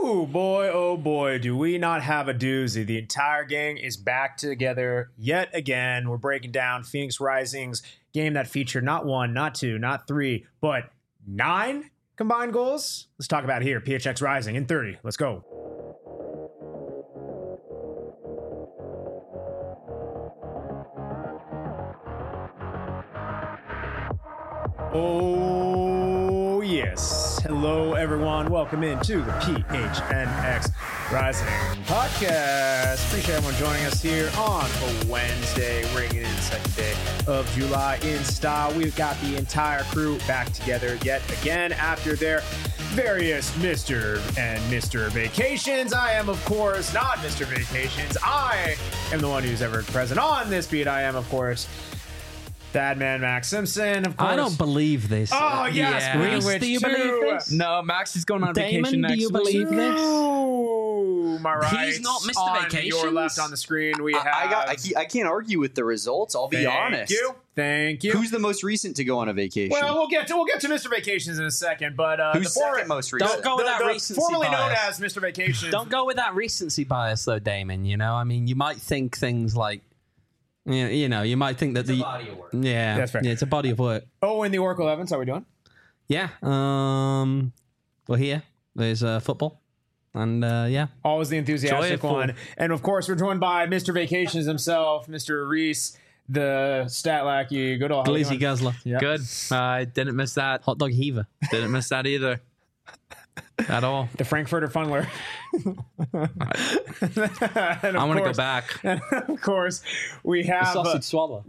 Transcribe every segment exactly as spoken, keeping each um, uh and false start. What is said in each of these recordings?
Ooh, boy, oh boy, do we not have a doozy. The entire gang is back together yet again. We're breaking down Phoenix Rising's game that featured not one, not two, not three, but nine combined goals. Let's talk about it here. P H X Rising in thirty. Let's go. Oh, yes. Hello, everyone. Welcome into the P H N X Rising podcast. Appreciate everyone joining us here on a Wednesday. We're getting into the second day of July in style. We've got the entire crew back together yet again after their various Mister and Mister Vacations. I am, of course, not Mister Vacations. I am the one who's ever present on this beat. I am, of course, Bad Man Max Simpson, of course. I don't believe this. Oh, yes. Yeah. Reese, Reese, do you believe this? No, Max is going on Damon, vacation next do you week. believe this? Ooh, my right. He's not Mister On Vacations. your left on the screen, we I, have... I got. I, ca- I can't argue with the results. I'll be Thank honest. you. Thank you. Who's the most recent to go on a vacation? Well, we'll get to we'll get to Mister Vacations in a second, but uh, Who's the for- second most recent? Don't go with the, that the recency formerly known bias. as Mister Vacations. Don't go with that recency bias, though, Damon. You know, I mean, you might think things like, you know, you, know, you might think that It's a the body of work. yeah, That's fair. yeah, it's a body of work. Oh, and the Oracle Evans, how we doing? Yeah, um, we're here. There's uh, football, and uh, yeah, Always the enthusiastic Joyful. one. And of course, we're joined by Mister Vacations himself, Mister Reese, the stat lackey. Good old how we Glizzy doing? Guzzler, Yep. Good. I didn't miss that. hot dog heaver. Didn't miss that either. At all. The Frankfurter Funneler. I want to go back. And of course, we The have... uh, sausage swallow.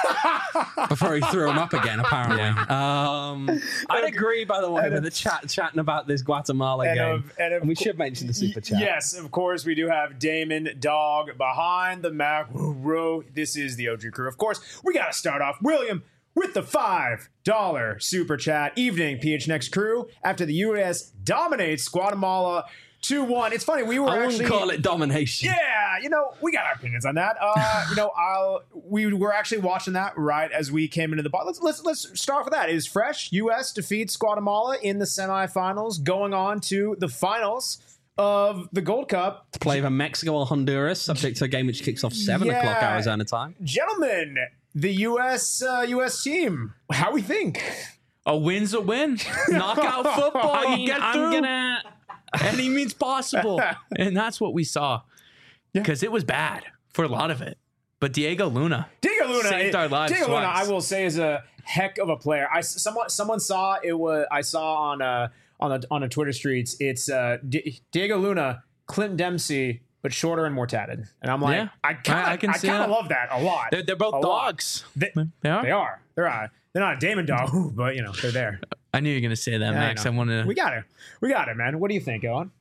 Before he threw him up again, apparently. Um, I'd agree, by the way, with the chat chatting about this Guatemala And game. of- and of And we cour- should mention the super chat. Yes, of course, we do have Damon Dog behind the macro. This is the O G crew. Of course, we got to start off, William, with the five dollar super chat. Evening, P H N X crew. After the U S dominates Guatemala two one. It's funny, we were I wouldn't actually... call it domination. Yeah, you know, we got our opinions on that. Uh, you know, I'll we were actually watching that right as we came into the bar. Let's let's let's start with that. It is fresh. U S defeats Guatemala in the semifinals, going on to the finals of the Gold Cup. To play for Mexico or Honduras, subject to a game which kicks off seven Yeah. o'clock Arizona time. Gentlemen, the U S uh, U S team, how we think? A win's a win. Knockout football. I You mean, get I'm through. gonna. Any means possible. And that's what we saw. Yeah. Because it was bad for a lot of it. But Diego Luna. Diego Luna Saved our lives Diego Luna, twice. I will say, is a heck of a player. I someone someone saw it was I saw on uh on the on the Twitter streets. It's uh Di- Diego Luna, Clint Dempsey, but shorter and more tatted. And I'm like, Yeah. I kind I- I of can I, see kind of that. love that a lot. They're, they're both A lot. dogs. They, They are? They are. They're uh, they're not a Damon dog, but you know they're there. I knew you were going to say that, Yeah, Max. I, I, know. want to. We got it. We got it, man. What do you think, Owen?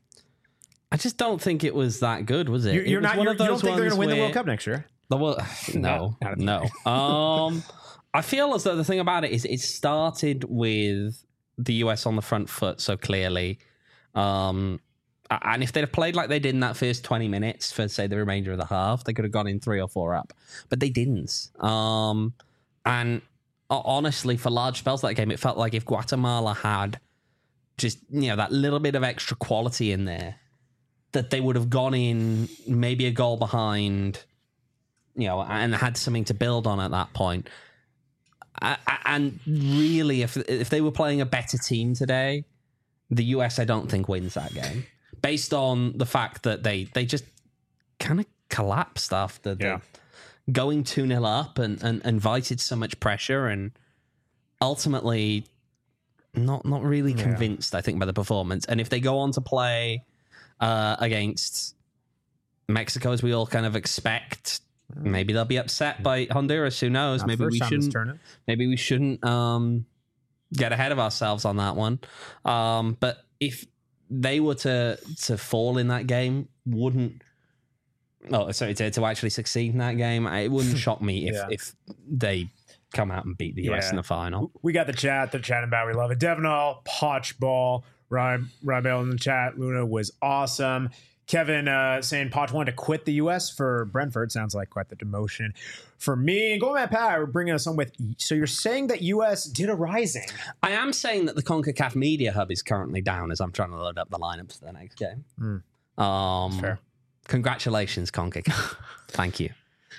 I just don't think it was that good, was it? You're, It you're was not. one You're, of you don't those think they're going to ones win the where- World Cup next year? The World, no, Not- not- no. Um, I feel as though the thing about it is it started with the U S on the front foot so clearly. Um, a- and if they'd have played like they did in that first twenty minutes for, say, the remainder of the half, they could have gone in three or four up. But they didn't. Um, and uh, honestly, for large spells of that game, it felt like if Guatemala had just, you know, that little bit of extra quality in there, that they would have gone in maybe a goal behind, you know, and had something to build on at that point. I, I, and really, if if they were playing a better team today, the U S I don't think wins that game, based on the fact that they they just kind of collapsed after the Yeah. going two nil up and, and invited so much pressure, and ultimately not not really Yeah. convinced, I think, by the performance. And if they go on to play uh, against Mexico, as we all kind of expect, maybe they'll be upset by Honduras. Who knows? Not Maybe first we time this shouldn't. tournament. Maybe we shouldn't um, get ahead of ourselves on that one. Um, but if they were to to fall in that game, wouldn't. Oh, sorry, to, to actually succeed in that game, it wouldn't shock me if Yeah. if they come out and beat the U S Yeah. in the final. We got the chat. They're chatting about. We love it. Devinall, Potch Ball, Rybell in the chat. Luna was awesome. Kevin uh, saying Poch wanted to quit the U S for Brentford. Sounds like quite the demotion for me. And going back, Pat, we're bringing us on with. So you're saying that U S did a rising? I am saying that the CONCACAF Media Hub is currently down as I'm trying to load up the lineups for the next game. Mm. Um, Fair. Congratulations, CONCACAF. Thank you.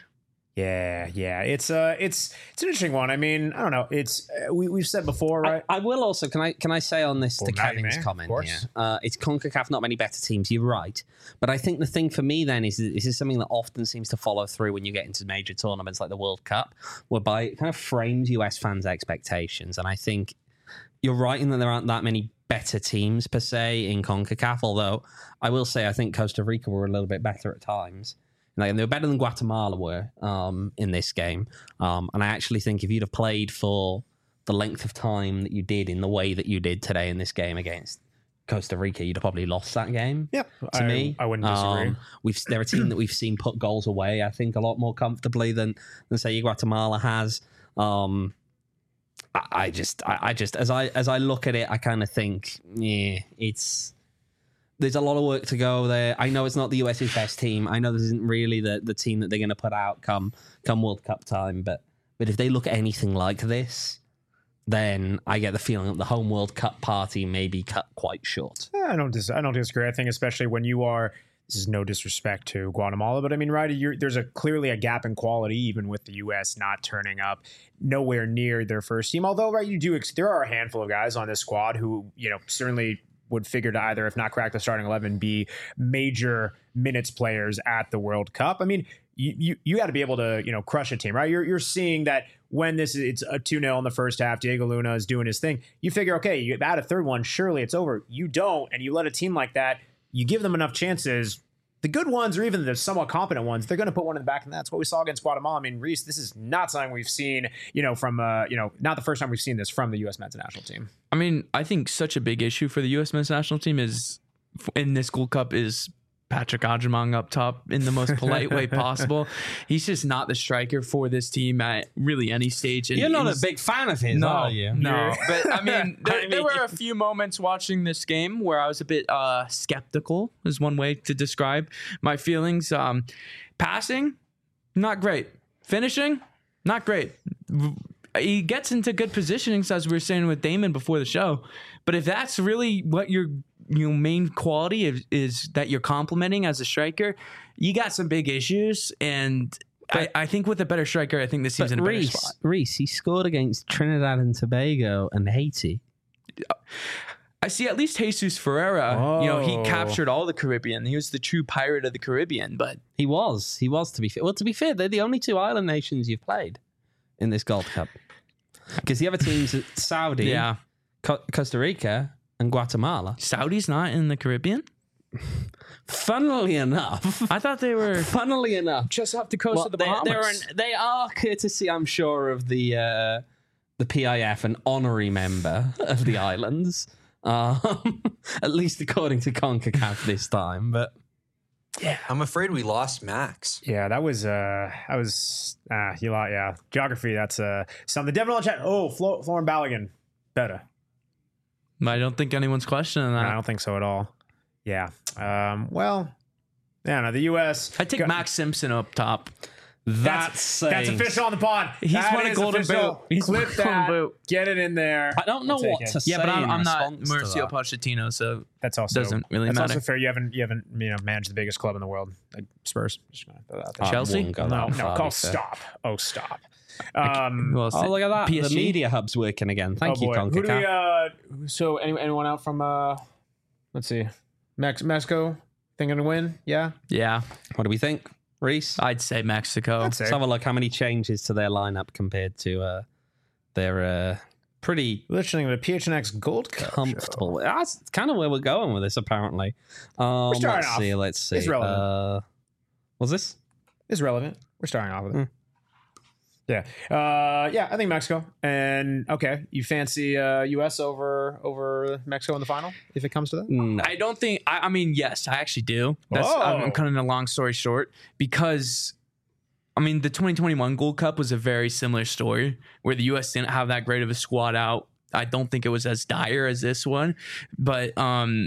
Yeah, yeah, it's uh, it's it's an interesting one. I mean, I don't know. It's uh, we we've said before, right? I, I will also can I can I say on this Well, to now you Kevin's may, of comment course. here? Uh, it's CONCACAF, not many better teams. You're right, but I think the thing for me then is that this is something that often seems to follow through when you get into major tournaments like the World Cup, whereby it kind of frames U S fans' expectations. And I think you're right in that there aren't that many better teams per se in CONCACAF. Although I will say I think Costa Rica were a little bit better at times. Like, they were better than Guatemala were um, in this game. Um, and I actually think if you'd have played for the length of time that you did in the way that you did today in this game against Costa Rica, you'd have probably lost that game. Yeah, to I, me. I wouldn't disagree. Um, we've They're a team that we've seen put goals away, I think, a lot more comfortably than, than say, Guatemala has. Um, I, I just, I, I just, as I as I look at it, I kind of think, yeah, it's... There's a lot of work to go there. I know it's not the US's best team. I know this isn't really the, the team that they're going to put out come come World Cup time. But but if they look anything like this, then I get the feeling that the home World Cup party may be cut quite short. Yeah, I don't dis- I don't disagree. I think especially when you are. This is no disrespect to Guatemala, but I mean, right? You're, there's a clearly a gap in quality, even with the U S not turning up nowhere near their first team. Although, right, you do. Ex- there are a handful of guys on this squad who, you know, certainly would figure to either, if not crack the starting eleven, be major minutes players at the World Cup. I mean, you you, you got to be able to, you know, crush a team, right? You're you're seeing that when this is it's a two nil in the first half, Diego Luna is doing his thing. You figure, okay, you add a third one, surely it's over. You don't, and you let a team like that, you give them enough chances. The good ones, or even the somewhat competent ones, they're going to put one in the back, and that's what we saw against Guatemala. I mean, Reese, this is not something we've seen, you know, from, uh, you know, not the first time we've seen this from the U S men's national team. I mean, I think such a big issue for the U S men's national team is in this Gold Cup is Patrick Agyemang up top in the most polite way possible. He's just not the striker for this team at really any stage. And You're not a he's- big fan of his, no, are you? No, but I mean, there, I mean- there were a few moments watching this game where I was a bit uh, skeptical, is one way to describe my feelings. Um, passing, not great. Finishing, not great. He gets into good positionings, as we were saying with Damon before the show. But if that's really what your your main quality is, is that you're complimenting as a striker, you got some big issues. And I, I think with a better striker, I think this team's in a better Reese, spot. Reese, he scored against Trinidad and Tobago and Haiti. I see at least Jesus Ferreira, you know, he Oh. captured all the Caribbean. He was the true pirate of the Caribbean, but He was. He was, to be fair. Well, to be fair, they're the only two island nations you've played in this Gold Cup. Because the other teams are Saudi, yeah. Co- Costa Rica, and Guatemala. Saudi's not in the Caribbean? Funnily enough, I thought they were funnily enough, just off the coast well, of the they, Bahamas. they're an, they are courtesy, I'm sure, of the uh, the P I F, an honorary member of the islands. Um, at least according to CONCACAF this time, but Yeah, I'm afraid we lost Max. Yeah, that was uh that was ah you lot yeah. Geography, that's uh something. Devin on chat. Oh, Flo- Florin Balogun. Better. I don't think anyone's questioning that. I don't think so at all. Yeah. Um well, yeah, no, the U S I take got- Max Simpson up top. that's That's saying- official on the pod. He's That won a is golden official. boot. He's Clip won a golden that. boot. Get it in there. I don't know I'll take what it. to say. Yeah, but I'm, in I'm not response to Mauricio that. Pochettino, so That's also doesn't really that's matter. also fair. You haven't you haven't you know managed the biggest club in the world, like Spurs. Just gonna throw that out there. I Chelsea? wouldn't go no, that no, far, call to be fair. stop. Oh, stop. Um, well, Oh, look at that. P S G? The media hub's working again. Thank oh you, boy. Who do we, CONCACAF. uh, so any, anyone out from uh, let's see, Mex- Mexico thinking to win? Yeah, Yeah, What do we think, Reese? I'd say Mexico. I'd say. Let's have a look how many changes to their lineup compared to uh, their uh, pretty listening to the P H N X Gold Cup comfortable. That's kind of where we're going with this, apparently. Um, starting let's off. see. Let's see. It's relevant. Uh, was this? Is relevant. We're starting off with it. Mm. Yeah, uh, yeah. I think Mexico. And okay, you fancy uh, U S over over Mexico in the final if it comes to that? No. I don't think. I, I mean, yes, I actually do. That's Whoa. I'm, I'm cutting a long story short because, I mean, the twenty twenty-one Gold Cup was a very similar story where the U S didn't have that great of a squad out. I don't think it was as dire as this one, but um,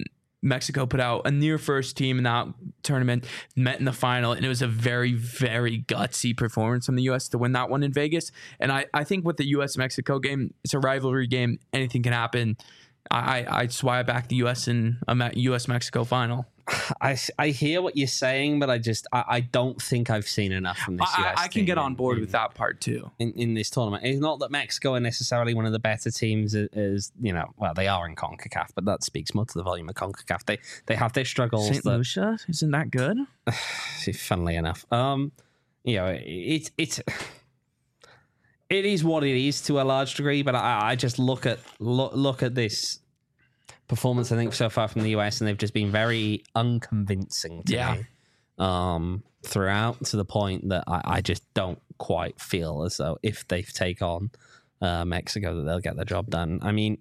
Mexico put out a near first team in that tournament, met in the final, and it was a very, very gutsy performance from the U S to win that one in Vegas. And I, I think with the U S Mexico game, it's a rivalry game. Anything can happen. I, I just why I back the U S in a U S Mexico final. I, I hear what you're saying, but I just I, I don't think I've seen enough from this I, U S I can team get on in- board in, with that part too. in, in this tournament. It's not that Mexico are necessarily one of the better teams as, as you know, well, they are in CONCACAF, but that speaks more to the volume of CONCACAF. They they have their struggles. Saint that, Lucia, isn't that good? funnily enough, um, you know, it's it's it is what it is to a large degree, but I, I just look at look, look at this performance, I think, so far from the U S, and they've just been very unconvincing to Yeah. me um, throughout, to the point that I, I just don't quite feel as though if they take on uh, Mexico that they'll get the job done. I mean,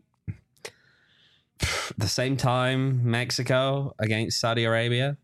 at the same time, Mexico against Saudi Arabia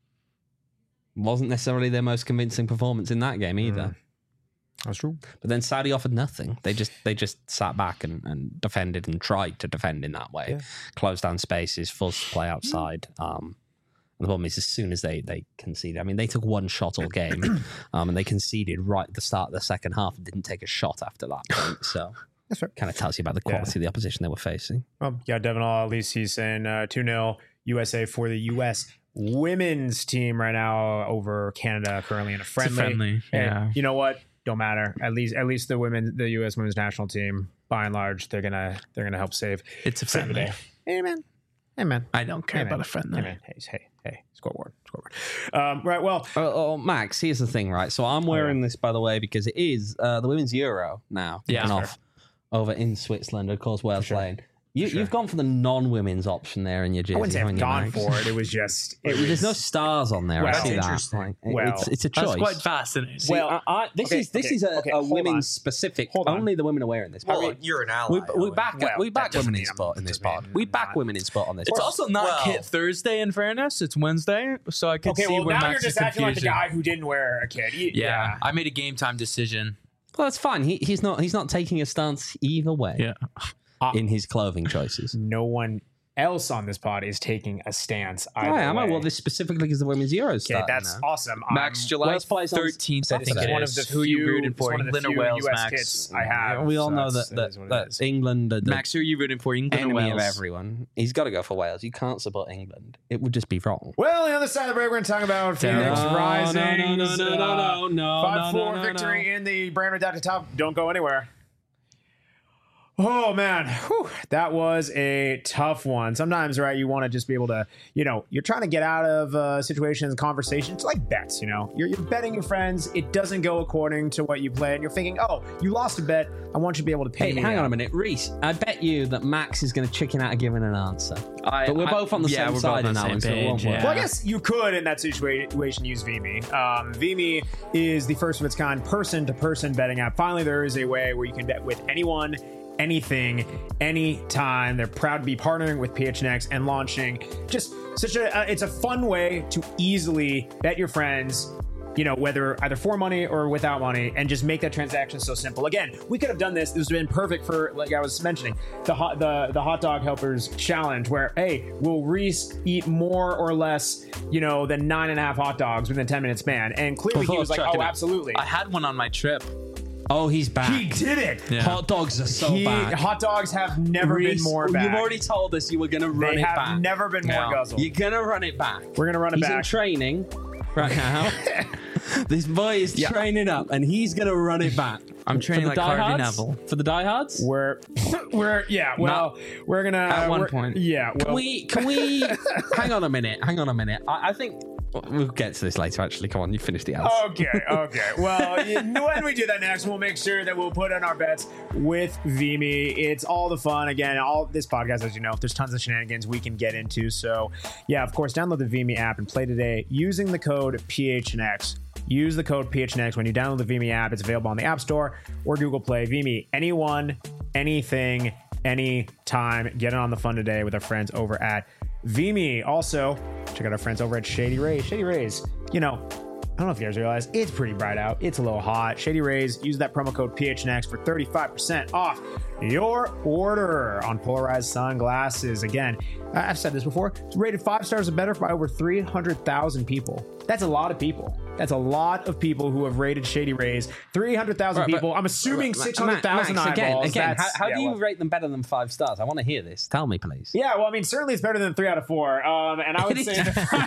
wasn't necessarily their most convincing performance in that game either. Mm. That's true. But then Saudi offered nothing. They just they just sat back and, and defended and tried to defend in that way. Yeah. Closed down spaces, forced to play outside. Um, and the problem is, as soon as they, they conceded, I mean, they took one shot all game, um, and they conceded right at the start of the second half and didn't take a shot after that point. So That's fair. kind of tells you about the quality of the opposition they were facing. Well, yeah, Devin All, at least he's saying uh, two nil U S A for the U S women's team right now over Canada, currently in a friendly. It's a friendly, Hey, yeah. you know what? Don't matter. At least, at least the women, the U S women's national team, by and large, they're gonna, they're gonna help save. It's a save the friendly. day. Amen. Amen. I don't care Amen. about a friendly. Amen. Hey, hey, hey. Scoreboard. Scoreboard. Um, right. Well, Oh, oh, Max, here's the thing, right? So I'm wearing this, by the way, because it is uh, the women's Euro now. Yeah. kicking Sure. off over in Switzerland. Of course, Wales sure. playing. You, sure. You've gone for the non-women's option there in your jersey. I wouldn't say haven't I've you, gone Max? for it. It was just. It There's was, no stars on there. Well, I see that's that. interesting. Like, Well, it's, it's a choice. That's quite fascinating. Well, I, I, this okay, is this okay, is a, okay, a hold women's on. specific. Hold on. Only the women are wearing this. Well, we, you're an ally. we, we Owen. back Well, we back that doesn't women in mean sport I'm- in this doesn't pod. mean We I'm back not. women in sport on this. It's pod. also not Well- Kit Thursday, in fairness. It's Wednesday, so I can Okay, see well, where now Max's you're just acting like the confusion. guy who didn't wear a kid. You- Yeah, I made a game time decision. well, that's fine. He, he's not he's not taking a stance either way Yeah. in his clothing choices. No one else on this pod is taking a stance. Either I am. I way. wore this specifically because the women's Euros Okay, starting that's now. awesome. Max, I'm- July Wales plays on thirteenth, I think Saturday. it one of is. the Who you few- rooting it's for? one of the England or few Wales, U S Max? kits I have. We all so know that's- that it that, is what it that is. England are the Max, who are you rooting for? England or enemy Wales? of everyone. He's got to go for Wales. You can't support England. It would just be wrong. Well, on the other side of the break, we're going to talk about Phoenix No, Rising. no, no, no, no, no, no, five four no, no, victory no. in the brand redacted top. Don't go anywhere. Oh, man. Whew. That was a tough one. Sometimes, right, you want to just be able to, you know, you're trying to get out of uh, situations, conversations, like bets, you know. You're, you're betting your friends. It doesn't go according to what you play. And you're thinking, oh, you lost a bet. I want you to be able to pay Hey, me hang out. on a minute, Reese. I bet you that Max is going to chicken out of giving an answer. I, But we're I- both on the yeah, same we're side both on in the that same one, so it won't page, work. yeah. Well, I guess you could, in that situation, use Vimy. Um, Vimy is the first of its kind person-to-person betting app. Finally, there is a way where you can bet with anyone, anything, anytime. They're proud to be partnering with P H N X and launching just such a. Uh, it's a fun way to easily bet your friends. You know, whether either for money or without money, and just make that transaction so simple. Again, we could have done this. This would have been perfect for, like I was mentioning, the hot the the hot dog helpers challenge, where hey, will Reese eat more or less, you know, than nine and a half hot dogs within a ten minute span? And clearly he Before was like, chucking oh, it. absolutely. I had one on my trip. Oh, he's back. He did it. Yeah. Hot dogs are so He- bad. hot dogs have never Reese, been more bad. You've already told us you were going to run They it have back. never been more Yeah. guzzled. You're going to run it back. We're gonna run it He's in back. training right now. This boy is Yeah. training up, and he's going to run it back. I'm training For like the Harvey diehards? Neville. For the diehards? We're we're yeah. Well, we're gonna at one we're- point. Yeah. Well, Can we? Can we? hang on a minute. Hang on a minute. I, I think we'll get to this later. Actually, come on. You finish the ads. Okay, okay. Well, you- when we do that next, we'll make sure that we'll put in our bets with Vimy. It's all the fun. Again, all this podcast, as you know, there's tons of shenanigans we can get into. So, yeah, of course, download the Vimy app and play today using the code P H N X. Use the code P H N X when you download the Vimy app. It's available on the App Store or Google Play. Vimy, anyone, anything, anytime. Get in on the fun today with our friends over at Vimy. Also, check out our friends over at Shady Rays. Shady Rays, you know, I don't know if you guys realize, it's pretty bright out. It's a little hot. Shady Rays, use that promo code P H N X for thirty-five percent off your order on polarized sunglasses. Again, I've said this before, it's rated five stars or better by over three hundred thousand people. That's a lot of people. That's a lot of people who have rated Shady Rays. three hundred thousand Right, people. but- I'm assuming Max, six hundred thousand Max, again, eyeballs. again, how, That's- how yeah, do you well- rate them better than five stars? I want to hear this. Tell me, please. Yeah, well, I mean, certainly it's better than three out of four. Um, and I would say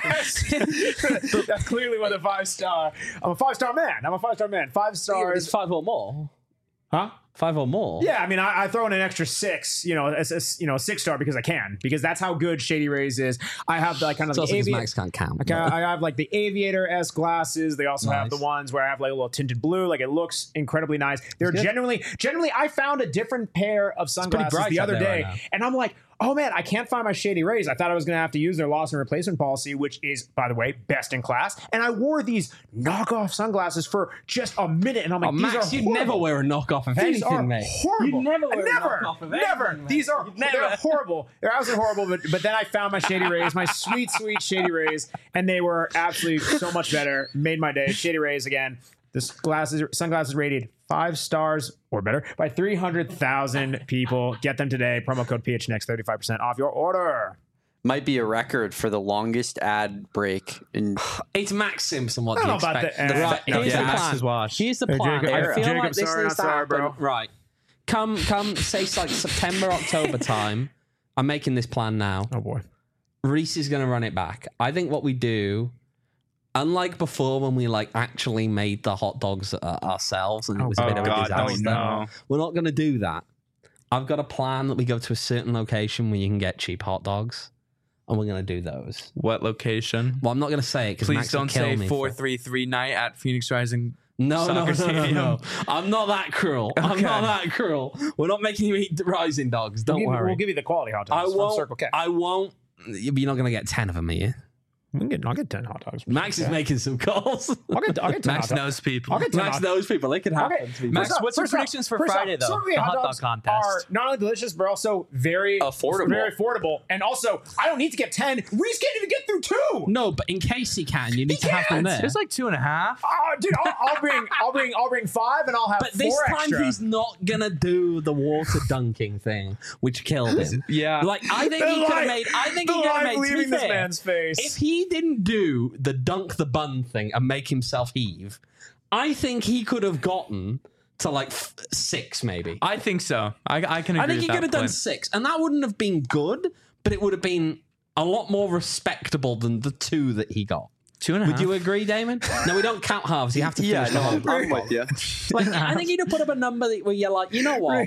that that's clearly what a five star. I'm a five star man. I'm a five star man. Five It's stars. five or more. Huh? Five or more. Yeah, I mean, I, I throw in an extra six, you know, a, a- you know, a six star because I can, because that's how good Shady Rays is. I have like kind of It's also the 'cause avi- Max can't count. I, ca- I have like the aviator S glasses. They also have the Nice. ones where I have like a little tinted blue. Like it looks incredibly nice. They're good. generally, generally, I found a different pair of sunglasses bright the out other there day, right now. and I'm like, oh man, I can't find my Shady Rays. I thought I was going to have to use their loss and replacement policy, which is, by the way, best in class. And I wore these knockoff sunglasses for just a minute, and I'm like, Oh, these Max, are you'd horrible. never wear a knockoff of These are anything, mate. horrible. You'd never wear never, a knockoff of never. anything, mate. These are You'd they're never. horrible. They're absolutely horrible. But but then I found my Shady Rays, my sweet sweet Shady Rays, and they were absolutely so much better. Made my day. Shady Rays again. This glasses sunglasses rated five stars or better by three hundred thousand people. Get them today. Promo code P H N X, thirty-five percent off your order. Might be a record for the longest ad break in It's Max Simpson. What I do you don't know about expect? the- uh, right, no, here's yeah, the Max plan. has watched. Here's the Hey, plan. Jacob, I yeah. feel Jacob, like this sorry, needs not to sorry, happen. bro. Right. Come, come, say it's like September, October time. I'm making this plan now. Oh boy. Reese is going to run it back. I think what we do, unlike before when we like actually made the hot dogs uh, ourselves and it was a Oh, bit of a God, disaster. oh, no. We're not going to do that. I've got a plan that we go to a certain location where you can get cheap hot dogs, and we're going to do those. What location? Well, I'm not going to say it because Please Max will don't kill say me four for- three three night at Phoenix Rising. No, no, no, Soccer no, no, stadium. no. I'm not that cruel. I'm Okay. not that cruel. We're not making you eat rising dogs. Don't We'll give, worry. we'll give you the quality hot I dogs from won't. Circle K. I won't. You're not going to get ten of them, are you? We can get, I'll get ten hot dogs. from Max Circle is K. making some calls. I'll get, I'll get ten Max hot dogs. knows people. I'll get ten Max hot- knows people. It could happen. Okay. to be Max, fair. First what's your first off- predictions for first off, Friday, though? Circle K The hot dog dogs contest. are not only delicious, but also very Affordable. Very affordable. And also, I don't need to get ten. Reese can't even get through two. No, but in case he can, you need to have them can't. there. There's like two and a half. Oh, dude, I'll, I'll bring, I'll bring, I'll bring five, and I'll have But four this time extra. he's not gonna do the water dunking thing, which killed him. Yeah. Like I think The he could have light- made. I think the he could have light made. To leaving be this fair, man's face. if he didn't do the dunk the bun thing and make himself heave, I think he could have gotten to like f- six, maybe. I think so. I, I can agree I think with he that could have done point. six, and that wouldn't have been good, but it would have been a lot more respectable than the two that he got. Two and a half. Would you agree, Damon? No, we don't count halves. You have to Yeah, finish the no, whole. I'm, I'm with you. Like, I think you'd have put up a number that, where you're like, you know what?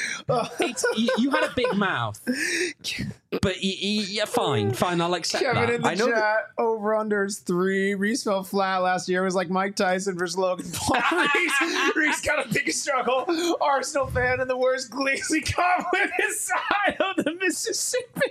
It's, you, you had a big mouth, but you, you, yeah, fine, fine. I'll accept Kevin that. in the I know chat, over unders three. Reese fell flat last year. It was like Mike Tyson versus Logan Paul. Reese, Reese got a big struggle. Arsenal fan and the worst Gleasley caught with his side of the Mississippi.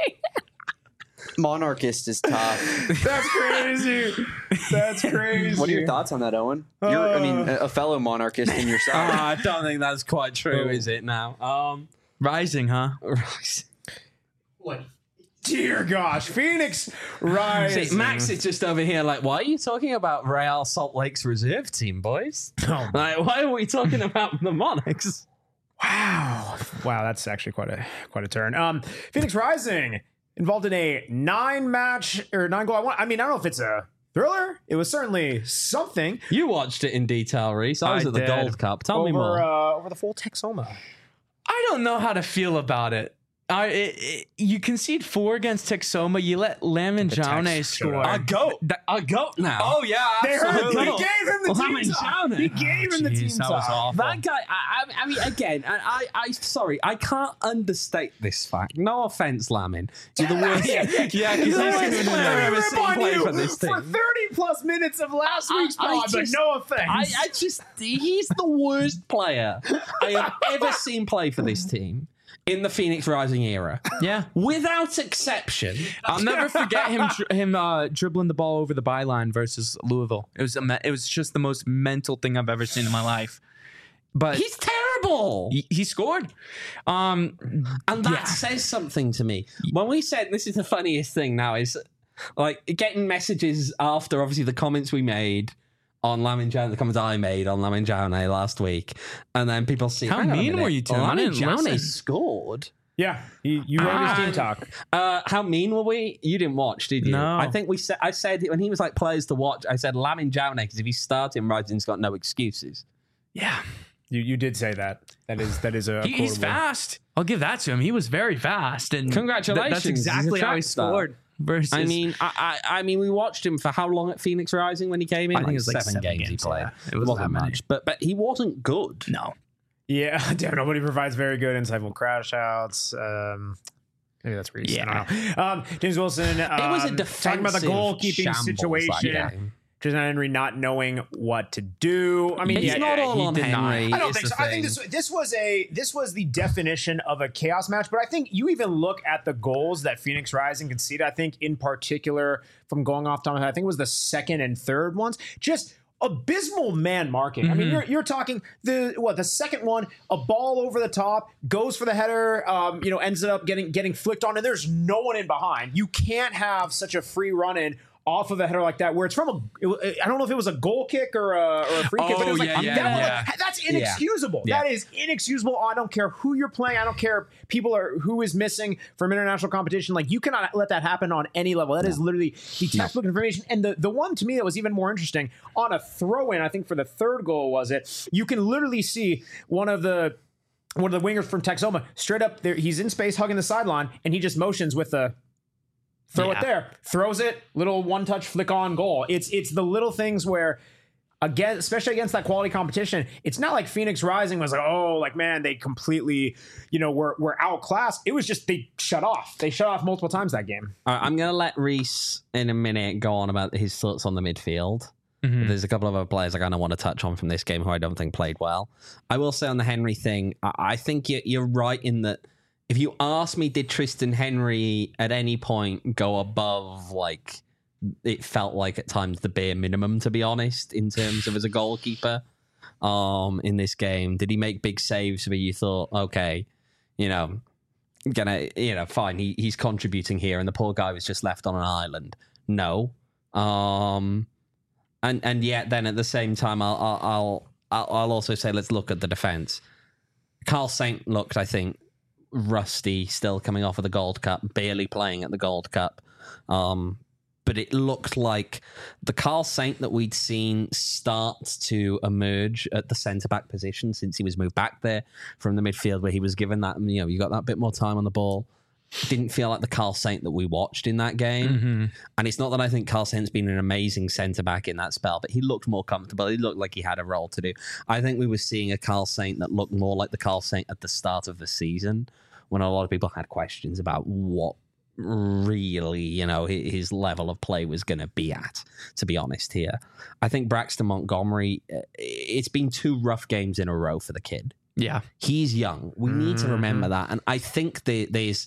Monarchist is tough. That's crazy. That's crazy. What are your thoughts on that, Owen? You're, I mean, a a fellow monarchist in your Uh, side. I don't think that's quite true, Oh. is it? Now, um, Rising, huh? right. Dear gosh, Phoenix Rising. See, Max is just over here, like, why are you talking about Real Salt Lake's reserve team, boys? Oh, Like, why are we talking about the Monarchs? wow, wow, that's actually quite a quite a turn. Um, Phoenix Rising involved in a nine match or nine goal. I, want, I mean, I don't know if it's a thriller. It was certainly something. You watched it in detail, Reese. I was I at the did. Gold Cup. Tell over, me more. Uh, over the full Texoma. I don't know how to feel about it. I it, it, you concede four against Texoma. You let Lamin The Jaune Tex showed score. up. I goat. I goat now. Oh yeah, They heard, absolutely. he gave him the Well, team Lamin top. Jaune. He gave him the Jeez, team that was top. awful. That guy, I, I, I mean, again, I, I, I, sorry, I can't understate this fact. No offense, Lamin. You're the worst. yeah, because You're the he's worst gonna player I've ever Rip seen on play you for this team. for thirty plus minutes of last I- week's I pod, but just- no offense. I, I just, he's the worst player I have ever seen play for this team in the Phoenix Rising era. Yeah. Without exception. I'll never forget him dri- him uh, dribbling the ball over the byline versus Louisville. It was a me- it was just the most mental thing I've ever seen in my life. But He's terrible. he, he scored. Um, And that Yeah. says something to me. When we said, this is the funniest thing now, is Like getting messages after obviously the comments we made on Lamin Jaune, the comments I made on Lamin Jaune last week, and then people see How hang on a mean minute, were you to him? I Lamin didn't Jaune listen. scored. Yeah, you, you wrote his team And, talk. Uh, how mean were we? You didn't watch, did you? No. I think we said. I said when he was like players to watch. I said Lamin Jaune because if he's starting, Rising's got no excuses. Yeah. You you did say that. That is that is a He, he's quotable. fast. I'll give that to him. He was very fast. And Congratulations. th- that's He's a exactly how track he star. scored. Versus, I mean, I, I, I mean, we watched him for how long at Phoenix Rising when he came in? I think it was like seven games, he games, played. yeah. It It, was wasn't that many. much, but but he wasn't good. no. Yeah, damn, nobody provides very good insightful crash outs. Um, maybe that's Reese. I don't know. Um, James Wilson. Um, It was a talking defensive about the goalkeeping shambles, situation. that game. Tristan Henry not knowing what to do. I mean, It's yeah, not yeah, all he on did not. Henry. I don't is think the so. I think thing. this this was a this was the definition of a chaos match. But I think you even look at the goals that Phoenix Rising conceded. I think in particular, from going off top of my head, I think it was the second and third ones. Just abysmal man marking. I mean, you're you're talking the what the second one, a ball over the top, goes for the header, um, you know, ends up getting getting flicked on, and there's no one in behind. You can't have such a free run in off of a header like that, where it's from a, it, I don't know if it was a goal kick or a, or a free kick, but it was Oh, like, yeah, yeah, that was yeah. like, that's inexcusable. Yeah. That is inexcusable. I don't care who you're playing. I don't care people are who is missing from international competition. Like, you cannot let that happen on any level. That is literally the textbook information. And the, the one to me that was even more interesting on a throw in, I think for the third goal was it, you can literally see one of the one of the wingers from Texoma straight up there. He's in space hugging the sideline, and he just motions with the throw Yeah. it there, throws it, little one touch flick on goal. It's it's the little things where, again, especially against that quality competition, it's not like Phoenix Rising was like, oh, like, man, they completely, you know, were, were outclassed. It was just they shut off. They shut off multiple times that game. All right, I'm going to let Reese in a minute go on about his thoughts on the midfield. Mhm. There's a couple of other players I kind of want to touch on from this game who I don't think played well. I will say on the Henry thing, I, I think you're, you're right in that if you ask me, did Tristan Henry at any point go above, like, it felt like at times the bare minimum, to be honest, in terms of as a goalkeeper um, in this game? Did he make big saves where you thought, okay, you know, gonna, you know, fine, he, he's contributing here, and the poor guy was just left on an island? No. Um, and and yet then at the same time, I'll I'll I'll, I'll I'll also say let's look at the defense. Carl Saint looked, I think, rusty, still coming off of the Gold Cup, barely playing at the Gold Cup. Um, but it looked like the Carl Saint that we'd seen start to emerge at the centre-back position since he was moved back there from the midfield, where he was given that, you know, you got that bit more time on the ball. Didn't feel like the Carl Saint that we watched in that game. Mm-hmm. And it's not that I think Carl Saint's been an amazing centre-back in that spell, but he looked more comfortable. He looked like he had a role to do. I think we were seeing a Carl Saint that looked more like the Carl Saint at the start of the season, when a lot of people had questions about what really, you know, his level of play was going to be at, to be honest here. I think Braxton Montgomery, it's been two rough games in a row for the kid. Yeah. He's young. We need to remember that. And I think there, there's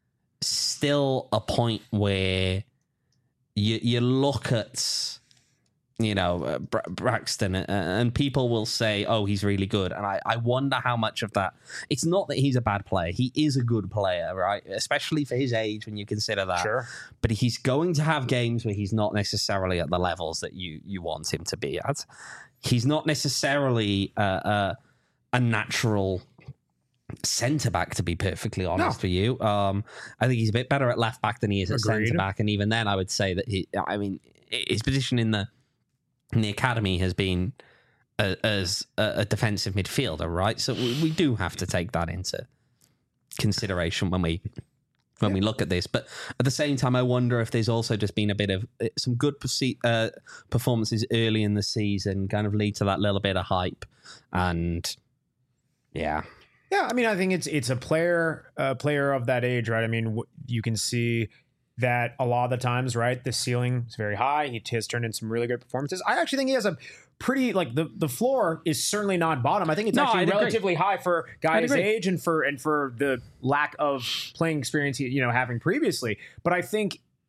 still a point where you you look at, you know, uh, Bra- Braxton, uh, and people will say, oh, he's really good. And I, I wonder how much of that, it's not that he's a bad player. He is a good player, right? Especially for his age, when you consider that. Sure. But he's going to have games where he's not necessarily at the levels that you, you want him to be at. He's not necessarily uh, uh, a natural centre back, to be perfectly honest No. for you. Um, I think he's a bit better at left back than he is at Agreed. centre back. And even then, I would say that he, I mean, his position in the in the academy has been a, as a, a defensive midfielder, right? So we, we do have to take that into consideration when we when we look at this. But at the same time, I wonder if there's also just been a bit of uh, some good perce- uh, performances early in the season, kind of lead to that little bit of hype, and yeah. Yeah, I mean, I think it's it's a player a player of that age, right? I mean, w- you can see that a lot of the times, right? The ceiling is very high. He has turned in some really good performances. I actually think he has a pretty, like, the, the floor is certainly not bottom. I think it's No, actually I'd agree. relatively high for I'd guys his agree. age and for and for the lack of playing experience he, you know, having previously. But I think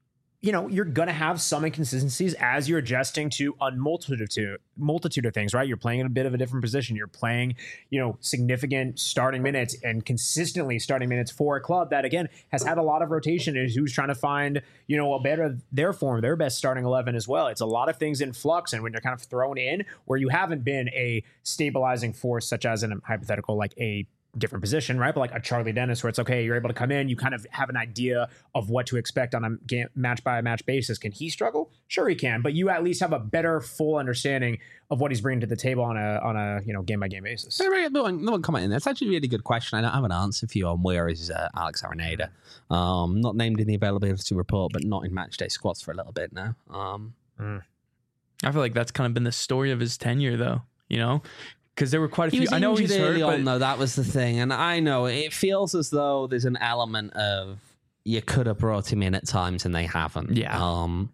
you know, you're going to have some inconsistencies as you're adjusting to a multitude of, to, multitude of things, right? You're playing in a bit of a different position. You're playing, you know, significant starting minutes and consistently starting minutes for a club that, again, has had a lot of rotation and who's trying to find, you know, a better, their form, their best starting eleven as well. It's a lot of things in flux. And when you're kind of thrown in where you haven't been a stabilizing force, such as in a hypothetical, like a different position, right? But like a Charlie Dennis, where it's okay, you're able to come in, you kind of have an idea of what to expect on a game, match by match basis. Can he struggle? Sure, he can, but you at least have a better full understanding of what he's bringing to the table on a on a you know game by game basis. No one, no one comment in there. It's actually a really good question. I don't have an answer for you on where is uh, Alex Arenado. Um, not named in the availability report, but not in match day squads for a little bit now. Um, mm. I feel like that's kind of been the story of his tenure, though. You know. Because there were quite a few. He was I know he's early hurt, on, though. That was the thing, and I know it feels as though there's an element of you could have brought him in at times and they haven't. Yeah. Um.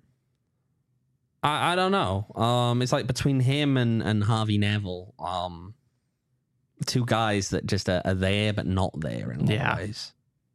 I, I don't know. Um. It's like between him and, and Harvey Neville. Um. Two guys that just are, are there but not there in a lot yeah. of ways.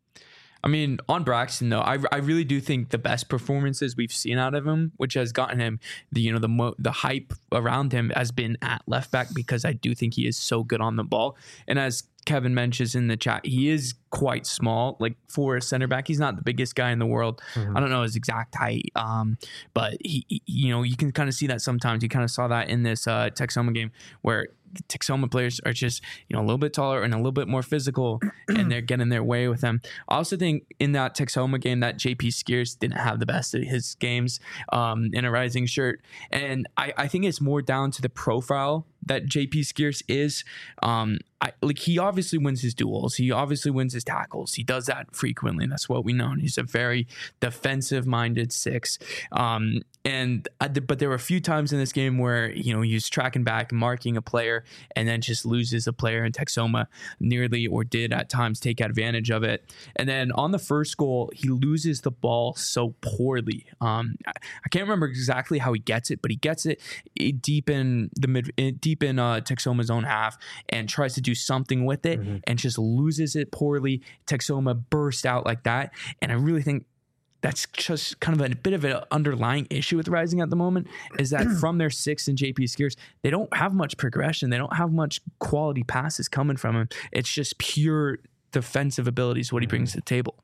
I mean, on Braxton though, I, I really do think the best performances we've seen out of him, which has gotten him the you know the mo- the hype around him, has been at left back because I do think he is so good on the ball. And as Kevin mentions in the chat, he is quite small. Like for a center back, he's not the biggest guy in the world. Mm-hmm. I don't know his exact height, um, but he, he you know you can kind of see that sometimes. You kind of saw that in this uh, Texoma game where the Texoma players are just, you know, a little bit taller and a little bit more physical, and they're getting their way with them. I also think in that Texoma game that J P Skeers didn't have the best of his games um, in a rising shirt. And I, I think it's more down to the profile that J P Skeers is. Um, I, like he obviously wins his duels. He obviously wins his tackles. He does that frequently. That's what we know. And he's a very defensive-minded six. Um, and I, but there were a few times in this game where you know he was tracking back, marking a player, and then just loses a player. And Texoma nearly or did at times take advantage of it. And then on the first goal, he loses the ball so poorly. Um, I, I can't remember exactly how he gets it, but he gets it deep in the mid, deep in uh, Texoma's own half, and tries to do something with it, mm-hmm. and just loses it poorly. Texoma burst out like that, and I really think that's just kind of a bit of an underlying issue with Rising at the moment, is that from their six and J P Skeers, they don't have much progression. They don't have much quality passes coming from him. It's just pure defensive abilities, what he brings to the table.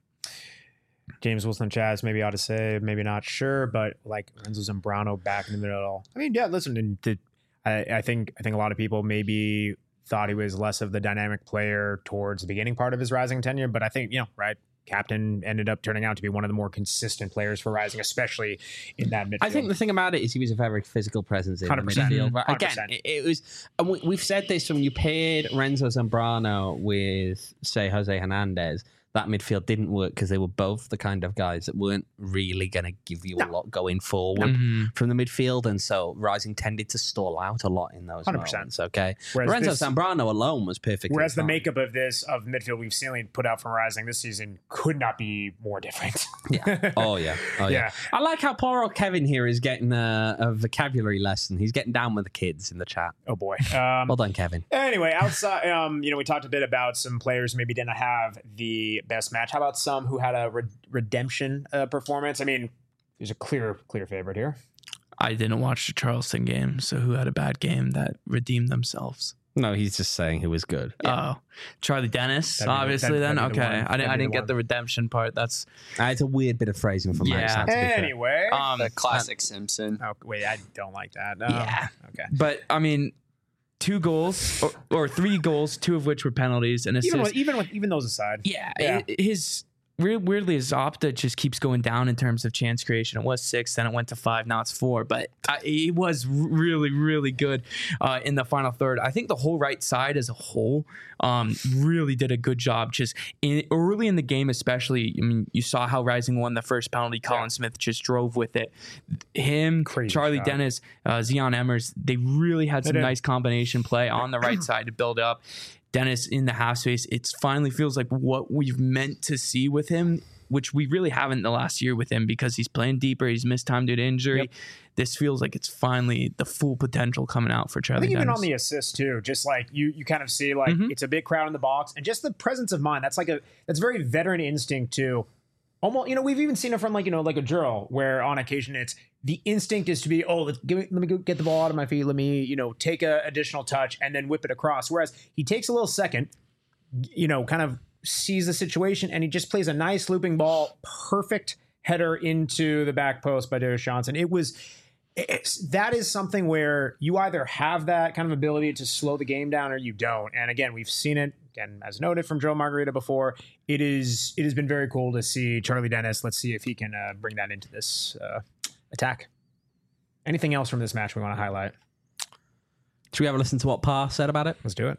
James Wilson Chaz, maybe ought to say, maybe not sure, but like Renzo Zambrano back in the middle. I mean, yeah, listen, to, I, I think I think a lot of people maybe thought he was less of the dynamic player towards the beginning part of his Rising tenure, but I think, you know, right, captain ended up turning out to be one of the more consistent players for Rising, especially in that midfield. I think the thing about it is he was a very physical presence in the midfield. But again, it, it was, and we, we've said this when you paired Renzo Zambrano with, say, Jose Hernandez, that midfield didn't work because they were both the kind of guys that weren't really going to give you no. a lot going forward mm-hmm. from the midfield. And so Rising tended to stall out a lot in those one hundred percent moments, okay? Whereas Renzo this, Zambrano alone was perfect. Whereas the makeup of this, of midfield we've seen put out from Rising this season could not be more different. yeah. Oh, yeah. Oh, yeah. yeah. I like how poor old Kevin here is getting a, a vocabulary lesson. He's getting down with the kids in the chat. Oh, boy. Um, well done, Kevin. Anyway, outside, um, you know, we talked a bit about some players who maybe didn't have the best match. How about some who had a re- redemption uh, performance? I mean, there's a clear, clear favorite here. I didn't watch the Charleston game, so who had a bad game that redeemed themselves? No, he's just saying who was good. Yeah. Oh, Charlie Dennis, that'd obviously. The, then okay, the I didn't. I didn't the get one. the redemption part. That's uh, it's a weird bit of phrasing from yeah. Max. Anyway, um, the classic Simpson. Oh wait, I don't like that. No. Yeah. Okay, but I mean. Two goals or, or three goals, two of which were penalties and assists. Even with, even with even those aside, yeah, yeah. his weirdly his Opta just keeps going down in terms of chance creation. It was six, then it went to five, now it's four. But uh, he was really, really good uh, in the final third. I think the whole right side as a whole um, really did a good job. Just in, early in the game, especially. I mean, you saw how Rising won the first penalty. Colin yeah. Smith just drove with it. Him, Crazy Charlie shot. Dennis, uh, Zion Emmers, they really had some nice combination play on the right side to build up. Dennis in the half space, it finally feels like what we've meant to see with him, which we really haven't the last year with him because he's playing deeper. He's missed time due to injury. Yep. This feels like it's finally the full potential coming out for Charlie I think Dennis. Even on the assist too, just like you you kind of see like mm-hmm. it's a big crowd in the box and just the presence of mind. That's like a that's very veteran instinct too. almost, you know, we've even seen it from like, you know, like a drill where on occasion it's the instinct is to be, oh, let's give me, let me go get the ball out of my feet. Let me, you know, take a additional touch and then whip it across. Whereas he takes a little second, you know, kind of sees the situation and he just plays a nice looping ball, perfect header into the back post by Darius Johnson. It was, it's, that is something where you either have that kind of ability to slow the game down or you don't. And again, we've seen it again, as noted from Joe Margarita before. It is, it has been very cool to see Charlie Dennis. Let's see if he can uh, bring that into this uh, attack. Anything else from this match we want to highlight? Should we have a listen to what Pa said about it? Let's do it.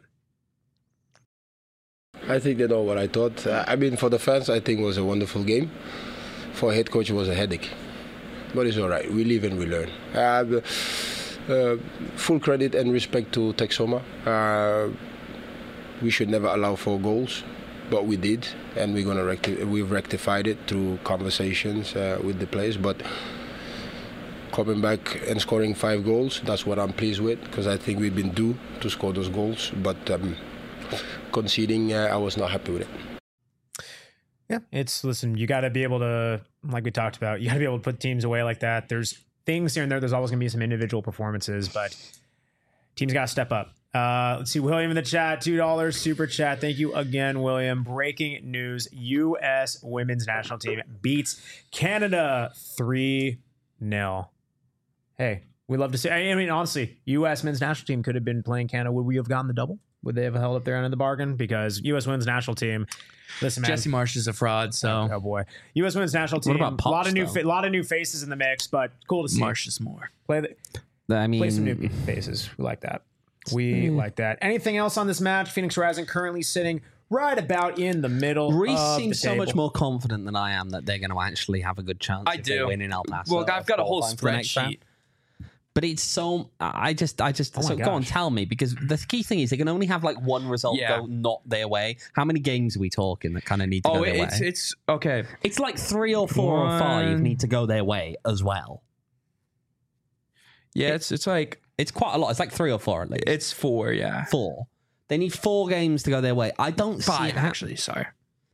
I think they know what I thought. Uh, I mean, for the fans, I think it was a wonderful game. For a head coach, it was a headache. But it's all right. We live and we learn. Uh, uh, full credit and respect to Texoma. Uh, we should never allow four goals, but we did, and we're gonna recti- we've rectified it through conversations uh, with the players. But coming back and scoring five goals, that's what I'm pleased with, because I think we've been due to score those goals. But um, conceding, uh, I was not happy with it. Yeah, it's, listen, you got to be able to, like we talked about, you got to be able to put teams away like that. There's things here and there. There's always going to be some individual performances, but teams got to step up. Uh, let's see, William in the chat, two dollars super chat. Thank you again, William. Breaking news, U S women's national team beats Canada three nil. Hey, we love to see, I mean, honestly, U S men's national team could have been playing Canada. Would we have gotten the double? Would they have held up their end of the bargain? Because U S women's national team, listen, man. Jesse Marsh is a fraud, so. Oh, boy. U S women's national team, What about a lot Pops, of new though? fa- lot of new faces in the mix, but cool to see. Marsh is more. Play, the, I mean, play some new faces. We like that. We like that. Anything else on this match? Phoenix Rising currently sitting right about in the middle Reese of seems the so much table. more confident than I am that they're going to actually have a good chance. I if they do. win in El Paso. Well, I've got a whole qualifying for the next round. spreadsheet. But it's so I just I just Oh my so go on, gosh. tell me, because the key thing is they can only have like one result Yeah. go not their way. How many games are we talking that kind of need to Oh, go their it's, way? it's, okay. It's like three or four or five One. need to go their way as well. Yeah, it's, it's like, It's quite a lot. It's like three or four at least. it's four, yeah. Four. They need four games to go their way. I don't Five, see how- actually, sorry.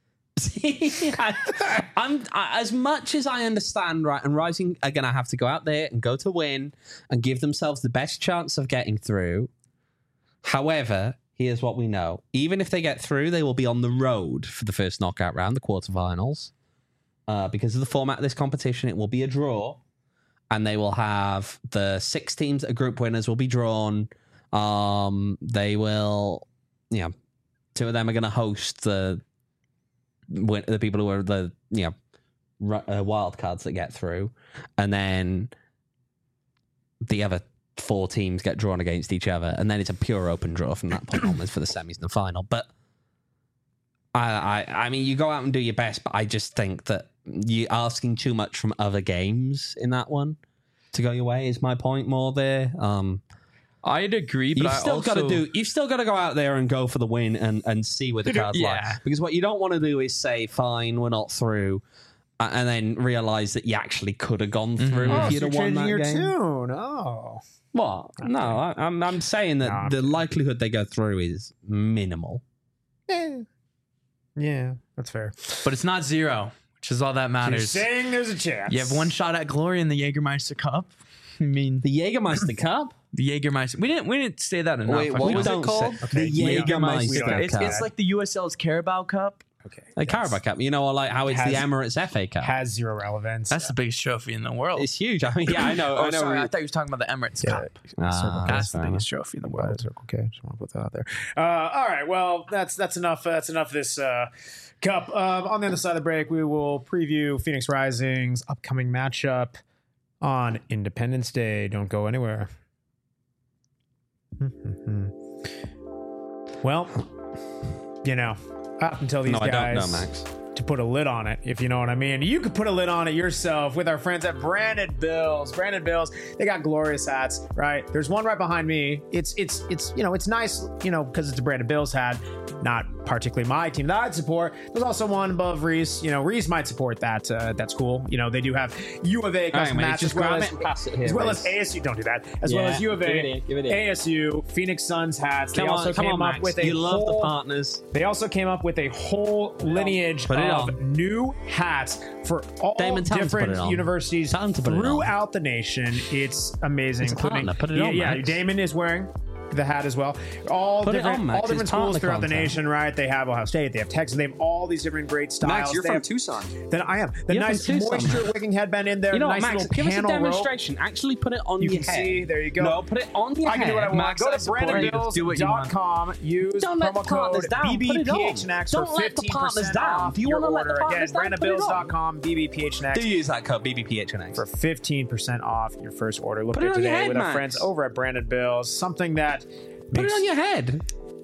I, I'm I, as much as I understand, right? And Rising are going to have to go out there and go to win and give themselves the best chance of getting through. However, here's what we know: even if they get through, they will be on the road for the first knockout round, the quarterfinals, uh, because of the format of this competition. It will be a draw, and they will have the six teams that are group winners will be drawn. Um, they will, you know, two of them are going to host the. When, the people who are the you know ru- uh, wild cards that get through, and then the other four teams get drawn against each other, and then it's a pure open draw from that point onwards for the semis and the final. But I, I, I mean, you go out and do your best, but I just think that you're asking too much from other games in that one to go your way. Is my point more there? Um, I'd agree, but You've I still also, got to do. You've still got to go out there and go for the win and, and see where the cards lie. Yeah. Because what you don't want to do is say, "Fine, we're not through," uh, and then realize that you actually could have gone through Oh, if so you'd you're have won changing that your game. tune. Oh. What? No, I, I'm I'm saying that No, I'm the kidding. likelihood they go through is minimal. Yeah. Yeah, that's fair. but it's not zero, which is all that You're matters. saying there's a chance. You have one shot at glory in the Jägermeister Cup. I mean, The Jägermeister Cup. the Jägermeister. We didn't. We didn't say that enough. Wait, I what feel was like. it called? Okay, The we don't- Jägermeister we don't have It's, to- it's like the U S L's Carabao Cup. Okay. Like that's- Carabao Cup. You know, or like how it's Has- the Emirates F A Cup. has zero relevance. That's the biggest trophy in the world. It's huge. I mean, yeah, I know. oh, I know. sorry. I thought you were talking about the Emirates Yeah. Cup. Ah, Circle K. That's the fair biggest trophy in the Well, world. Circle K. Just want to put that out there. Uh, all right. Well, that's that's enough. Uh, that's enough. Of this uh, cup. Um, on the other side of the break, we will preview Phoenix Rising's upcoming matchup on Independence Day. Don't go anywhere. Well, you know, up until these No, I guys don't know, Max. to put a lid on it, if you know what I mean. You could put a lid on it yourself with our friends at Branded Bills. Branded Bills, they got glorious hats, right? There's one right behind me. It's it's it's you know it's nice, you know, because it's a Branded Bills hat, not particularly my team that I'd support. There's also one above Reese. You know, Reese might support that. Uh, that's cool. You know, they do have U of A custom mate, hats just as well grab as it and pass it here, as well Reese. as A S U. Don't do that. As well Yeah, as U of give A, it here, give it here. A S U, Phoenix Suns hats. They Come also on, come came on, up Max. with a You love the whole partners. they also came up with a whole lineage Put it it of on. new hats for all Damon, tell him to put different it on. universities Tell him to put it on. throughout the nation. It's amazing. It's a including- partner. Put it yeah, on, yeah, Max. Damon is wearing the hat as well. All Put it different, on, Max. all different It's schools partner throughout the content. nation, right? They have Ohio State, they have Texas, they have all these different great styles. Max, you're They from have- Tucson. Then I am the You're from nice Tucson, moisture Max. wicking headband in there. You know what, nice Max? little Give us a panel rope. demonstration. Actually, put it on You your can head. see. There you go. No, put it on your I can head. do what I want. Max, Go I to support brandon you. bills Do what you dot com. Use Don't let promo the partners code down. Put it on. BBPHNX Don't for let the fifteen partners percent down. off Do you your wanna let the order. Again, partners down? brandon Put it bills on. dot com, B B P H N X. Do use that code B B P H N X. For fifteen percent off your first order. Look Put it at on your today head, with our Max. friends over at Brandon Bills. Something that Put makes, it on your head.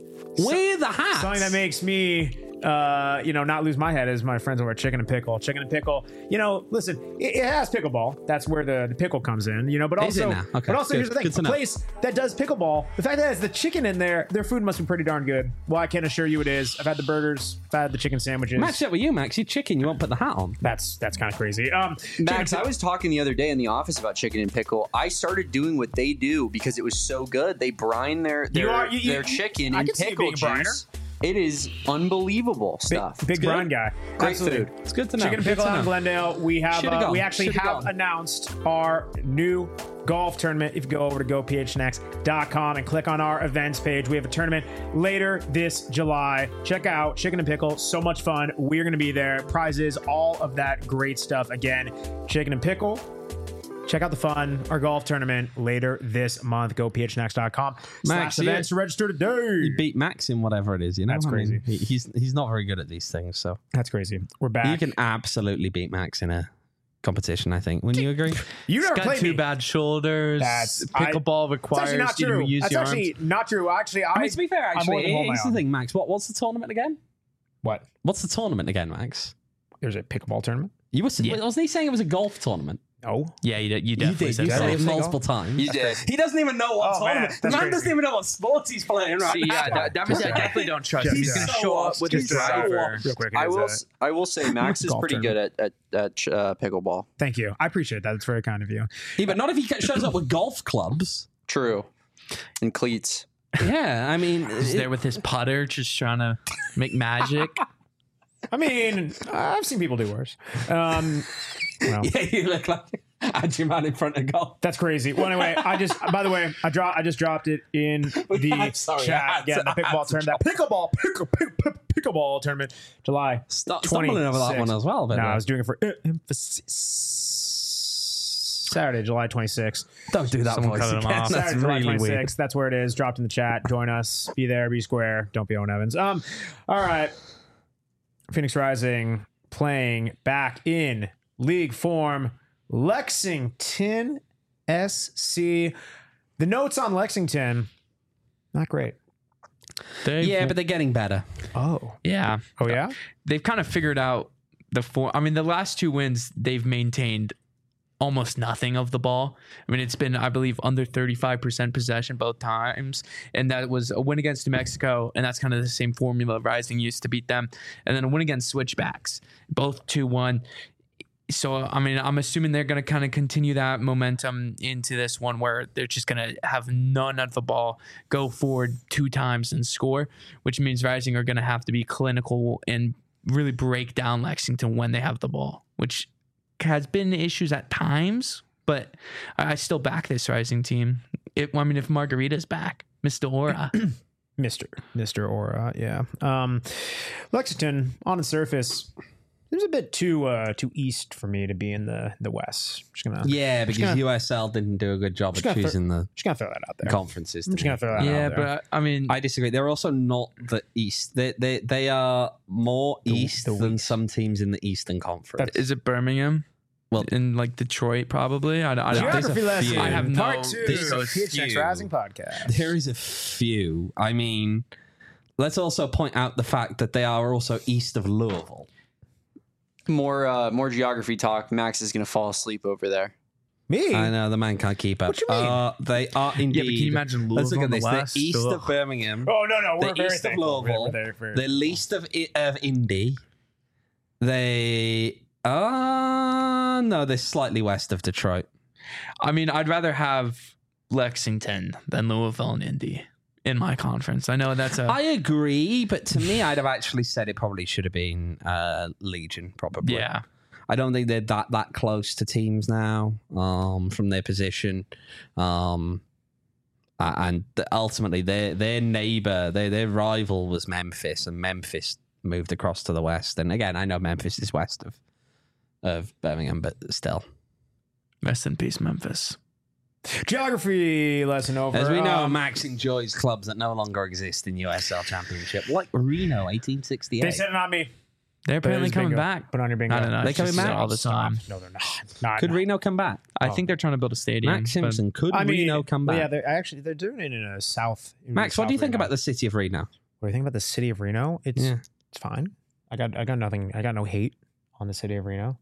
Wear the hat. something that makes me uh, you know, not lose my head is my friends over at Chicken and Pickle. Chicken and Pickle, you know, listen, it, it has pickleball. That's where the, the pickle comes in, you know, but Is it also, now? Okay, but also good. here's the thing, Good to a know. place that does pickleball, the fact that it has the chicken in there, their food must be pretty darn good. Well, I can assure you it is. I've had the burgers, I've had the chicken sandwiches. Match up with you, Max. You chicken. You won't put the hat on. That's, that's kind of crazy. Um, Max, Chicken- I was talking the other day in the office about chicken and pickle. I started doing what they do because it was so good. They brine their their, You are- you- you- their chicken I in can see you pickle being a briner. juice. It is unbelievable Big, stuff. big good. brine guy. Great Absolutely. food. It's good to know. Chicken and Good Pickle to out in know. Glendale. We have Should've uh, gone. we actually Should've have gone. announced our new golf tournament. If you go over to go p h n x dot com and click on our events page, we have a tournament later this July. Check out Chicken and Pickle. So much fun. We're going to be there. Prizes, all of that great stuff. Again, Chicken and Pickle. Check out the fun, our golf tournament later this month. go p h n x dot com Max, slash you- events to register today. You beat Max in whatever it is. You know, That's I mean, crazy. he- he's he's not very good at these things. So That's crazy. We're back. you can absolutely beat Max in a competition. I think. Wouldn't you agree? you never Got played two me. bad shoulders. That's- I- Pickleball It's requires actually not you true. to use That's your actually arms. not true. Actually, I, I mean, to be fair, I'm more actually, than hold my here's the own. thing, Max. What what's the tournament again? What? What's the tournament again, Max? There's a pickleball tournament? You were Yeah. wasn't he saying it was a golf tournament? No. Yeah, you, did- you You definitely did. said You that. said Did I it say multiple golf? times. You did. He doesn't even know what Oh, man, tournament. The that's man crazy. doesn't even know what sports he's playing right See, now. yeah, that, that means I definitely don't trust him. Just, He's uh, going to so show up lost. with He's his so driver. lost. Real quick. I it is, will. uh, s- I will say Max is Golf pretty good at at, at uh, pickleball. Thank you. I appreciate that. It's very kind of you. Yeah, but not if he shows up with golf clubs. True. And cleats. Yeah, I mean, He's it- there with his putter, just trying to make magic. I mean, I've seen people do worse. Um, well, yeah, you look like had your man in front of golf. that's crazy. Well, anyway, I just, by the way, I dropped, I just dropped it in the I'm sorry, I chat. had Again, to- the I pickleball had to tournament, that pickleball, pickle, pick, pick, pickleball tournament, July. Stop stumbling over that one as well. No, But I was doing it for uh, emphasis. Saturday, July twenty-sixth. don't do that Someone voice cut him again. off. That's Saturday, July really weird. twenty-sixth. That's where it is. Dropped in the chat. Join us. Be there. Be square. Don't be Owen Evans. Um. All right. Phoenix Rising playing back in league form. Lexington S C. The notes on Lexington, not great. They've- Yeah, but they're getting better. Oh. yeah, Oh yeah. they've kind of figured out the four. I mean, the last two wins they've maintained almost nothing of the ball. I mean, it's been, I believe, under thirty-five percent possession both times, and that was a win against New Mexico, and that's kind of the same formula Rising used to beat them, and then a win against Switchbacks, both two one. So, I mean, I'm assuming they're going to kind of continue that momentum into this one where they're just going to have none of the ball, go forward two times and score, which means Rising are going to have to be clinical and really break down Lexington when they have the ball, which has been issues at times, but I I still back this Rising team. It, I mean, if Margarita's back, Mister Aura. Mister Mister Aura, yeah. Um, Lexington on the surface, it was a bit too uh, too east for me to be in the the West. Just gonna Yeah, because gonna- U S L didn't do a good job Just of gonna throw- choosing the just gonna throw that out there. conferences. I'm just didn't gonna throw that yeah, out there. but I mean, I disagree. They're also not the East. They they they are more East the than some teams in the Eastern Conference. is it Birmingham? Well- in like Detroit, probably. I, I, There's a Geography lesson. few. I have no. Part two. there's a P H X few. Rising podcast. There is a few. I mean, let's also point out the fact that they are also east of Louisville. More uh, more geography talk. Max is gonna fall asleep over there. Me? I know the man can't keep up. What you mean? Uh, they are indeed. Yeah, but can you imagine Let's look Louisville at in this. the They're West? east Ugh. of Birmingham. Oh no, no, we're They're very east of thankful. We're- Louisville. we're very- very- They're least of I- of Indy. They are no, they're slightly west of Detroit. I mean, I'd rather have Lexington than Louisville and Indy. in my conference. I know that's a I agree, but to me, I'd have actually said it probably should have been uh, Legion, probably. yeah. I don't think they're that that close to teams now um, from their position. Um, a- and th- ultimately, their their neighbor, their their rival was Memphis, and Memphis moved across to the west. And again, I know Memphis is west of of Birmingham, but still. Rest in peace, Memphis. Geography lesson over. As we know, Um, Max enjoys clubs that no longer exist in U S L Championship, like Reno, eighteen sixty-eight. they said it, not me. They're apparently There's coming bingo. back. Put on your bingo. I don't know. They It's coming just back? all the time. No, they're not. Not Could not. Reno come back? I Oh. think they're trying to build a stadium. Max but- Simpson, could I mean, Reno come back? Yeah, they're actually they're doing it in a south. in Max, what South do you think Reno. about the city of Reno? What do you think about the city of Reno? It's Yeah. it's fine. I got I got nothing. I got no hate on the city of Reno.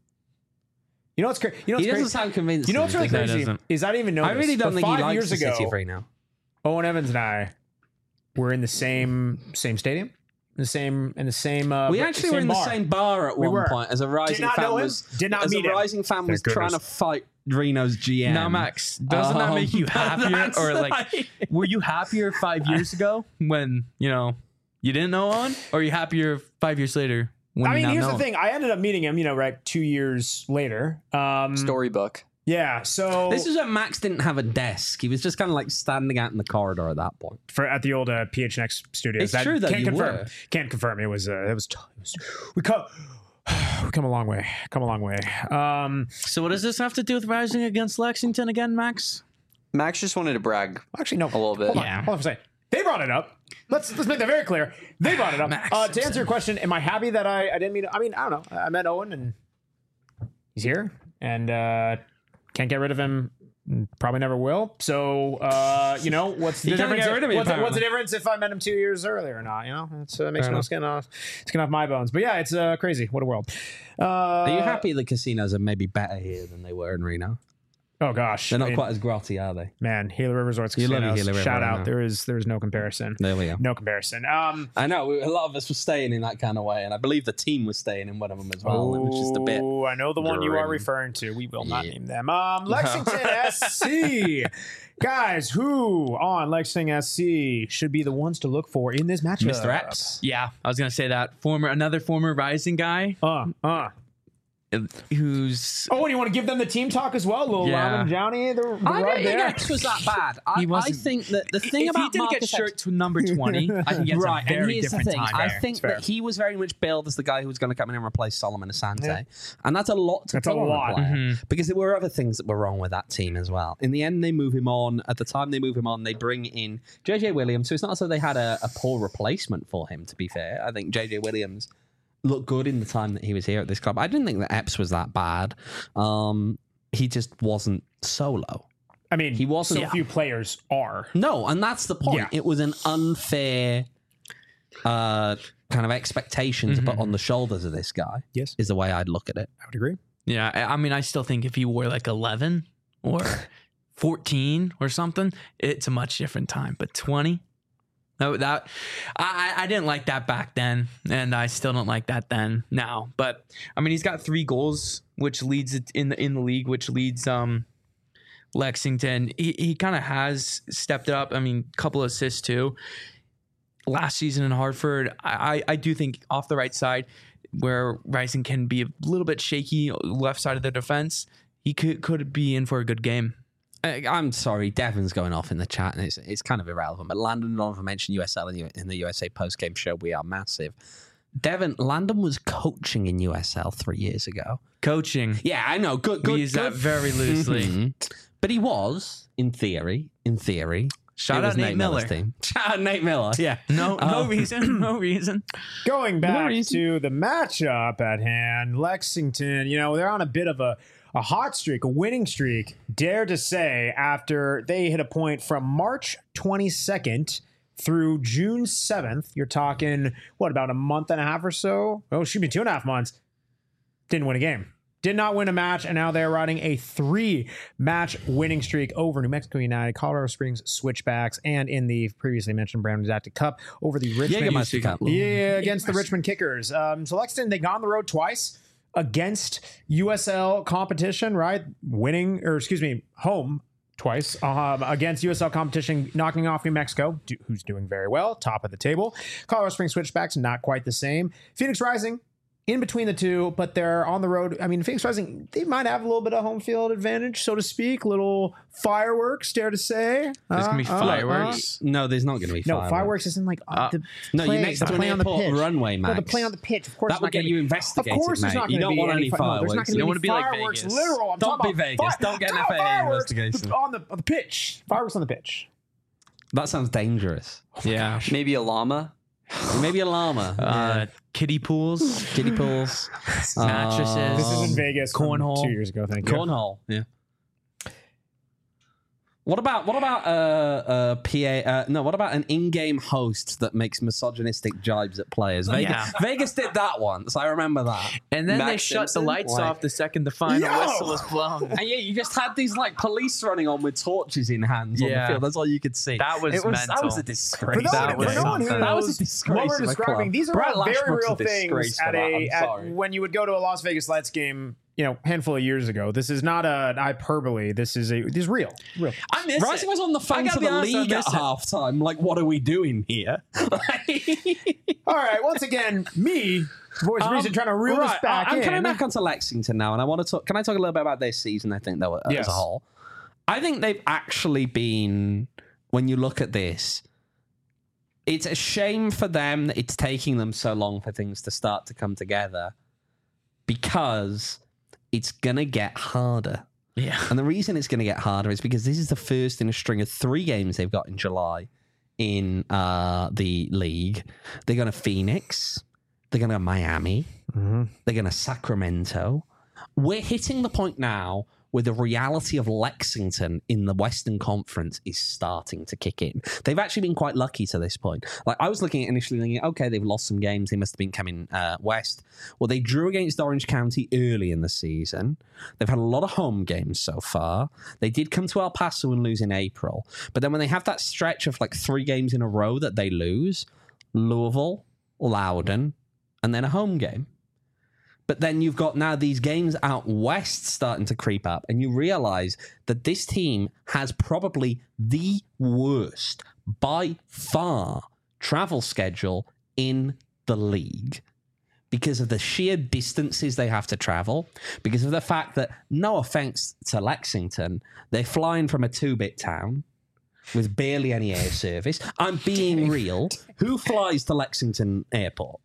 You know what's crazy? You know He what's doesn't crazy? sound convinced. You know what's really No, he crazy doesn't. is I didn't even know. I this, really don't but think he five likes years the ago, city of Reno. Owen Evans and I were in the same same stadium, in the same in the same. Uh, We bar- actually were in bar. the same bar at We one were. point as a rising not fan know him. was Did not as meet a him. rising fan Thank was trying to goodness. fight Reno's G M. Now, Max, doesn't that Um, make you but happier? that's Or like, like- were you happier five years ago when, you know, you didn't know on? Or are you happier five years later when I you mean, now here's know the him? thing. I ended up meeting him, you know, right two years later. Um, Storybook. Yeah. So This is when Max didn't have a desk. He was just kind of like standing out in the corridor at that point. for at the old uh, P H N X studios. It's true that can't you confirm. were. Can't confirm. It was. Uh, it was. It was we come. We come a long way. Come a long way. Um, So what does this have to do with rising against Lexington again, Max? Max just wanted to brag. actually, no. A little bit. Hold on. Yeah. Hold on for a second. They brought it up. Let's let's make that very clear. They brought it up. Max Uh, to answer Simpson. your question, am I happy that I I didn't mean? I mean, I don't know. I met Owen and he's here and uh, can't get rid of him. Probably never will. So uh, you know what's the You can't difference? get rid of me, what's, what's the apparently. difference if I met him two years earlier or not? You know, it's uh, makes Fair no enough. skin off skin off my bones. But yeah, it's uh, crazy. What a world. Uh, Are you happy the casinos are maybe better here than they were in Reno? Oh gosh, They're I not mean, quite as grotty, are they? man. Gila River Resorts You love your Casinos. Gila River, Shout I out. know. There is there is no comparison. There we go. No comparison. Um, I know we- a lot of us were staying in that kind of way, and I believe the team was staying in one of them as well. It was just a bit. Oh, I know the one you are grim. referring to. We will not Yeah. name them. Um, Lexington S C. Guys, who on Lexington S C should be the ones to look for in this matchup? Mister Epps. Yeah, I was gonna say that. Former another former rising guy Uh, uh. uh, who's Oh, and you want to give them the team talk as well? Little Yeah. Lyman Johnny, the, the I rub don't think there. Epps was that bad. I, He I wasn't- think that the thing if about he didn't Marcus get shirt Epps- to number twenty, I think he has right, a very and here's the different thing. time. I Fair, think it's fair. that he was very much billed as the guy who was going to come in and replace Solomon Asante, Yeah. and that's a lot to That's put a on lot. a player Mhm. because there were other things that were wrong with that team as well. In the end, they move him on. At the time they move him on, they bring in J J Williams. So it's not as though they had a, a poor replacement for him. To be fair, I think J J Williams looked good in the time that he was here at this club. I didn't think that Epps was that bad. Um, he just wasn't solo. I mean, He wasn't- So Yeah. few players are. No, and that's the point. Yeah. It was an unfair uh, kind of expectation to put on the shoulders of this guy. Yes. Is the way I'd look at it. I would agree. Yeah, I I mean, I still think if he wore like eleven or fourteen or something, it's a much different time. But twenty, no, that I I I didn't like that back then, and I still don't like that then now. But I mean, he's got three goals, which leads it in the in the league, which leads um Lexington. He he kind of has stepped it up. I mean, a couple of assists too. Last season in Hartford, I, I I do think off the right side, where Rising can be a little bit shaky, left side of the defense, he could could be in for a good game. I, I'm sorry, Devon's going off in the chat, and it's it's kind of irrelevant. But Landon Donovan mentioned U S L in, U- in the U S A post game show. We are massive. Devon, Landon was coaching in U S L three years ago. Coaching, Yeah, I know. Good, we good. use good. that very loosely. Mhm. But he was, in theory, in theory. Shout it was out Nate Miller's Miller. team. Shout out Nate Miller. Yeah. No, no Um, reason, no reason. Going back reason. to the matchup at hand, Lexington, you know, they're on a bit of a, a hot streak, a winning streak, dare to say, after they hit a point from March twenty-second through June seventh. You're talking, what, about a month and a half or so? Oh, excuse me, two and a half months. Didn't win a game. Did not win a match, and now they're riding a three-match winning streak over New Mexico United, Colorado Springs Switchbacks, and in the previously mentioned Brown Adapted Cup over the Richmond. Jägermeister Cup. Yeah, against the Richmond Kickers. Um, so Lexington, they got on the road twice against U S L competition, right? Winning, or excuse me, home twice um, against U S L competition, knocking off New Mexico, do, who's doing very well, top of the table. Colorado Springs Switchbacks, not quite the same. Phoenix Rising, in between the two, but they're on the road. I mean, Phoenix Rising, they might have a little bit of home field advantage, so to speak. Little fireworks, dare to say. There's going to be Uh, uh, fireworks. No, there's not going to be No, fireworks. fireworks isn't like on Uh, the No, play, you're next the to an play on the airport pitch. runway, No, the Max. play on the pitch. Of course, That it's would not get gonna you be- investigated, Of course, there's mate. not You going to don't be want any fi- no, there's not fireworks. gonna You don't wanna be like fireworks, Vegas. Literal. I'm Don't talking be about Vegas. Don't get an F A A fireworks investigation. on the on the pitch. Fireworks on the pitch. That sounds dangerous. Yeah. Maybe a llama. Maybe a llama. Uh, kiddie pools, Kiddie pools. mattresses. This is in Um, Vegas from cornhole. two years ago. Thank you. Cornhole. Yeah. What about what about uh, uh P A? Uh, no, what about an in-game host that makes misogynistic jibes at players? Vegas, Yeah. Vegas did that once. I remember that. And then they Max shut Simpson? the lights Like- off the second the final Yo! whistle was blown. And yeah, you just had these like police running on with torches in hands on the Yeah. field. That's all you could see. That was it was mental. That was a For disgrace. no, That one, was for no one who something. That was a knows disgrace what we're of a describing, club. these are Brett all very Lashbrook's real a disgrace things for at that. a I'm at, sorry. when you would go to a Las Vegas Lights game, you know, handful of years ago. This is not a hyperbole. This is a this is real, real. I miss Rising it. was on the I phone gotta to be the honest, I league at miss it. halftime. Like, what are we doing here? All right, once again, me, voice of Um, reason, trying to reel right, this back I'm in. coming back onto Lexington now, and I want to talk. Can I talk a little bit about their season? I think though, as Yes. a whole, I think they've actually been. When you look at this, it's a shame for them that it's taking them so long for things to start to come together, because it's gonna get harder. Yeah. And the reason it's going to get harder is because this is the first in a string of three games they've got in July in uh, the league. They're going to Phoenix. They're going to Miami. Mhm. They're going to Sacramento. We're hitting the point now where the reality of Lexington in the Western Conference is starting to kick in. They've actually been quite lucky to this point. Like, I was looking at initially thinking, okay, they've lost some games. They must have been coming uh, west. Well, they drew against Orange County early in the season. They've had a lot of home games so far. They did come to El Paso and lose in April. But then when they have that stretch of like three games in a row that they lose, Louisville, Loudoun, and then a home game. But then you've got now these games out west starting to creep up, and you realize that this team has probably the worst, by far, travel schedule in the league because of the sheer distances they have to travel, because of the fact that, no offense to Lexington, they're flying from a two-bit town with barely any air service. I'm being real. Who flies to Lexington Airport?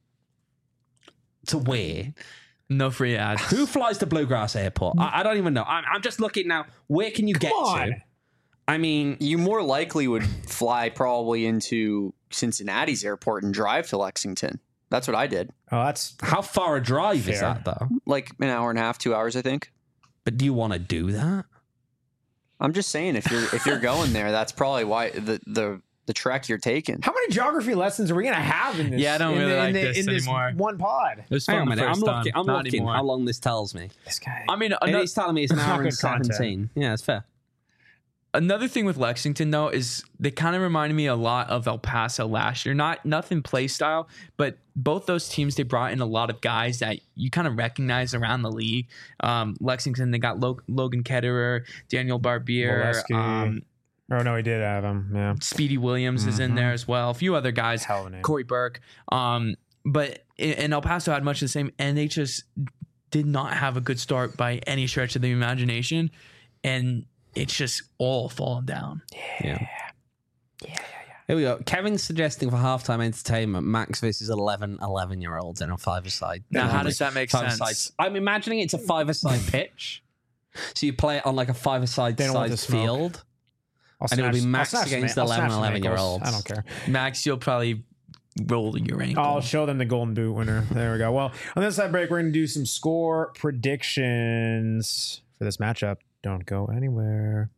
To where? No free ads. Who flies to Bluegrass Airport? I, I don't even know. I'm, I'm just looking now. Where can you get on. to? I mean, You more likely would fly probably into Cincinnati's airport and drive to Lexington. That's what I did. Oh, that's how far a drive is Fair. that, though? Like an hour and a half, two hours, I think. But do you want to do that? I'm just saying, if you're if you're going there, that's probably why the the the trek you're taking. how many geography lessons are we gonna have in this? Yeah, I don't in really the, like in the, this in this anymore. one pod. It was Hang fun on a the minute. I'm first looking. time. I'm Not looking anymore. how long this tells me. This guy. I mean, And ano- it's telling me it's an It's not hour and good content. seventeen. Yeah, it's fair. another thing with Lexington though is they kind of reminded me a lot of El Paso last year. Not nothing play style, but both those teams, they brought in a lot of guys that you kind of recognize around the league. Um, Lexington, they got Lo- Logan Ketterer, Daniel Barbier, Molesky. um, Oh no, he did have him. Yeah, Speedy Williams is in there as well. A few other guys, Hell of a name. Corey Burke. Um, but and El Paso had much the same, and they just did not have a good start by any stretch of the imagination, and it's just all fallen down. Yeah. Here we go. Kevin's suggesting for halftime entertainment, Max versus eleven eleven-year-olds in a five-a-side. Now, how does that make Five-a-side. sense? I'm imagining it's a five-a-side pitch. So you play it on like a five-a-side They don't want size to smoke. field. I'll And it'll be snatch- I'll Max snatch against some- I'll eleven snatch some ankles. eleven-year-olds. I don't care. Max, you'll probably roll your ankle. I'll show them the golden boot winner. There we go. Well, on this side break, we're going to do some score predictions for this matchup. Don't go anywhere.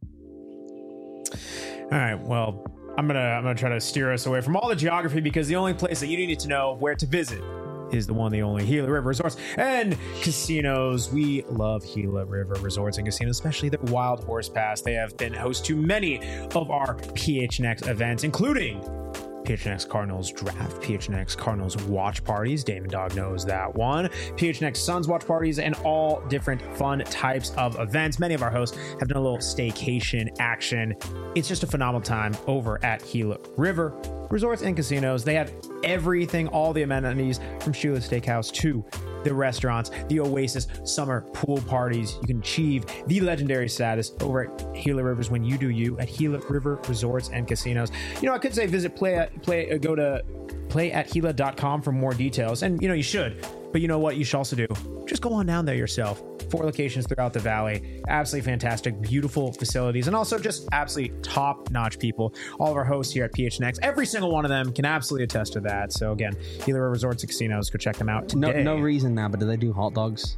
All right. Well, I'm gonna I'm gonna try to steer us away from all the geography because the only place that you need to know where to visit is the one, the only Gila River Resorts and Casinos. We love Gila River Resorts and Casinos, especially the Wild Horse Pass. They have been host to many of our P H N X events, including P H N X Cardinals draft, P H N X Cardinals watch parties. Damon Dog knows that one. P H N X Suns watch parties and all different fun types of events. Many of our hosts have done a little staycation action. It's just a phenomenal time over at Gila River Resorts and Casinos. They have everything, all the amenities from Shula Steakhouse to the restaurants, the Oasis summer pool parties. You can achieve the legendary status over at Gila Rivers when you do you at Gila River Resorts and Casinos. You know, I could say visit play at play uh, go to play at gila dot com for more details, and you know you should. But you know what you should also do? Just go on down there yourself. Four locations throughout the valley. Absolutely fantastic, beautiful facilities, and also just absolutely top-notch people. All of our hosts here at P H N X, every single one of them can absolutely attest to that. So again, Gila River Resorts and Casinos, go check them out today. No, no reason now, but do they do hot dogs?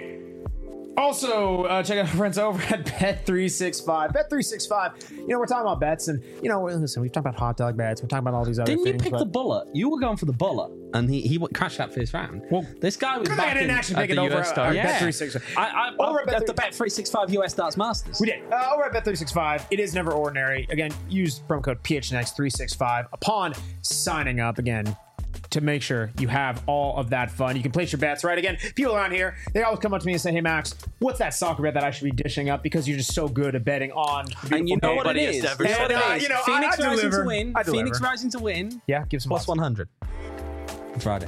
Also, uh, check out our friends over at Bet three sixty-five. Bet three sixty-five, you know, we're talking about bets, and, you know, listen, we've talked about hot dog bets, we're talking about all these other Didn't things. you pick but... the bullet? You were going for the bullet, and he he crashed that first round. Well, this guy was good back thing I didn't in, actually at pick it the over U S at Star. uh, Yeah. Bet three sixty-five. I, I, Over I, at Bet at the Bet three sixty-five U S Darts Masters. We did. Uh, over at Bet three sixty-five, it is never ordinary. Again, use promo code P H N X three sixty-five upon signing up. Again, to make sure you have all of that fun. You can place your bets, right? Again, people around here, they always come up to me and say, hey, Max, what's that soccer bet that I should be dishing up because you're just so good at betting on the And you know what it Nobody has is. ever You know said what it that. is. You know, I- Phoenix I Rising deliver. to win. I deliver. Phoenix Rising to win. Yeah, give some Plus odds. one hundred. Friday.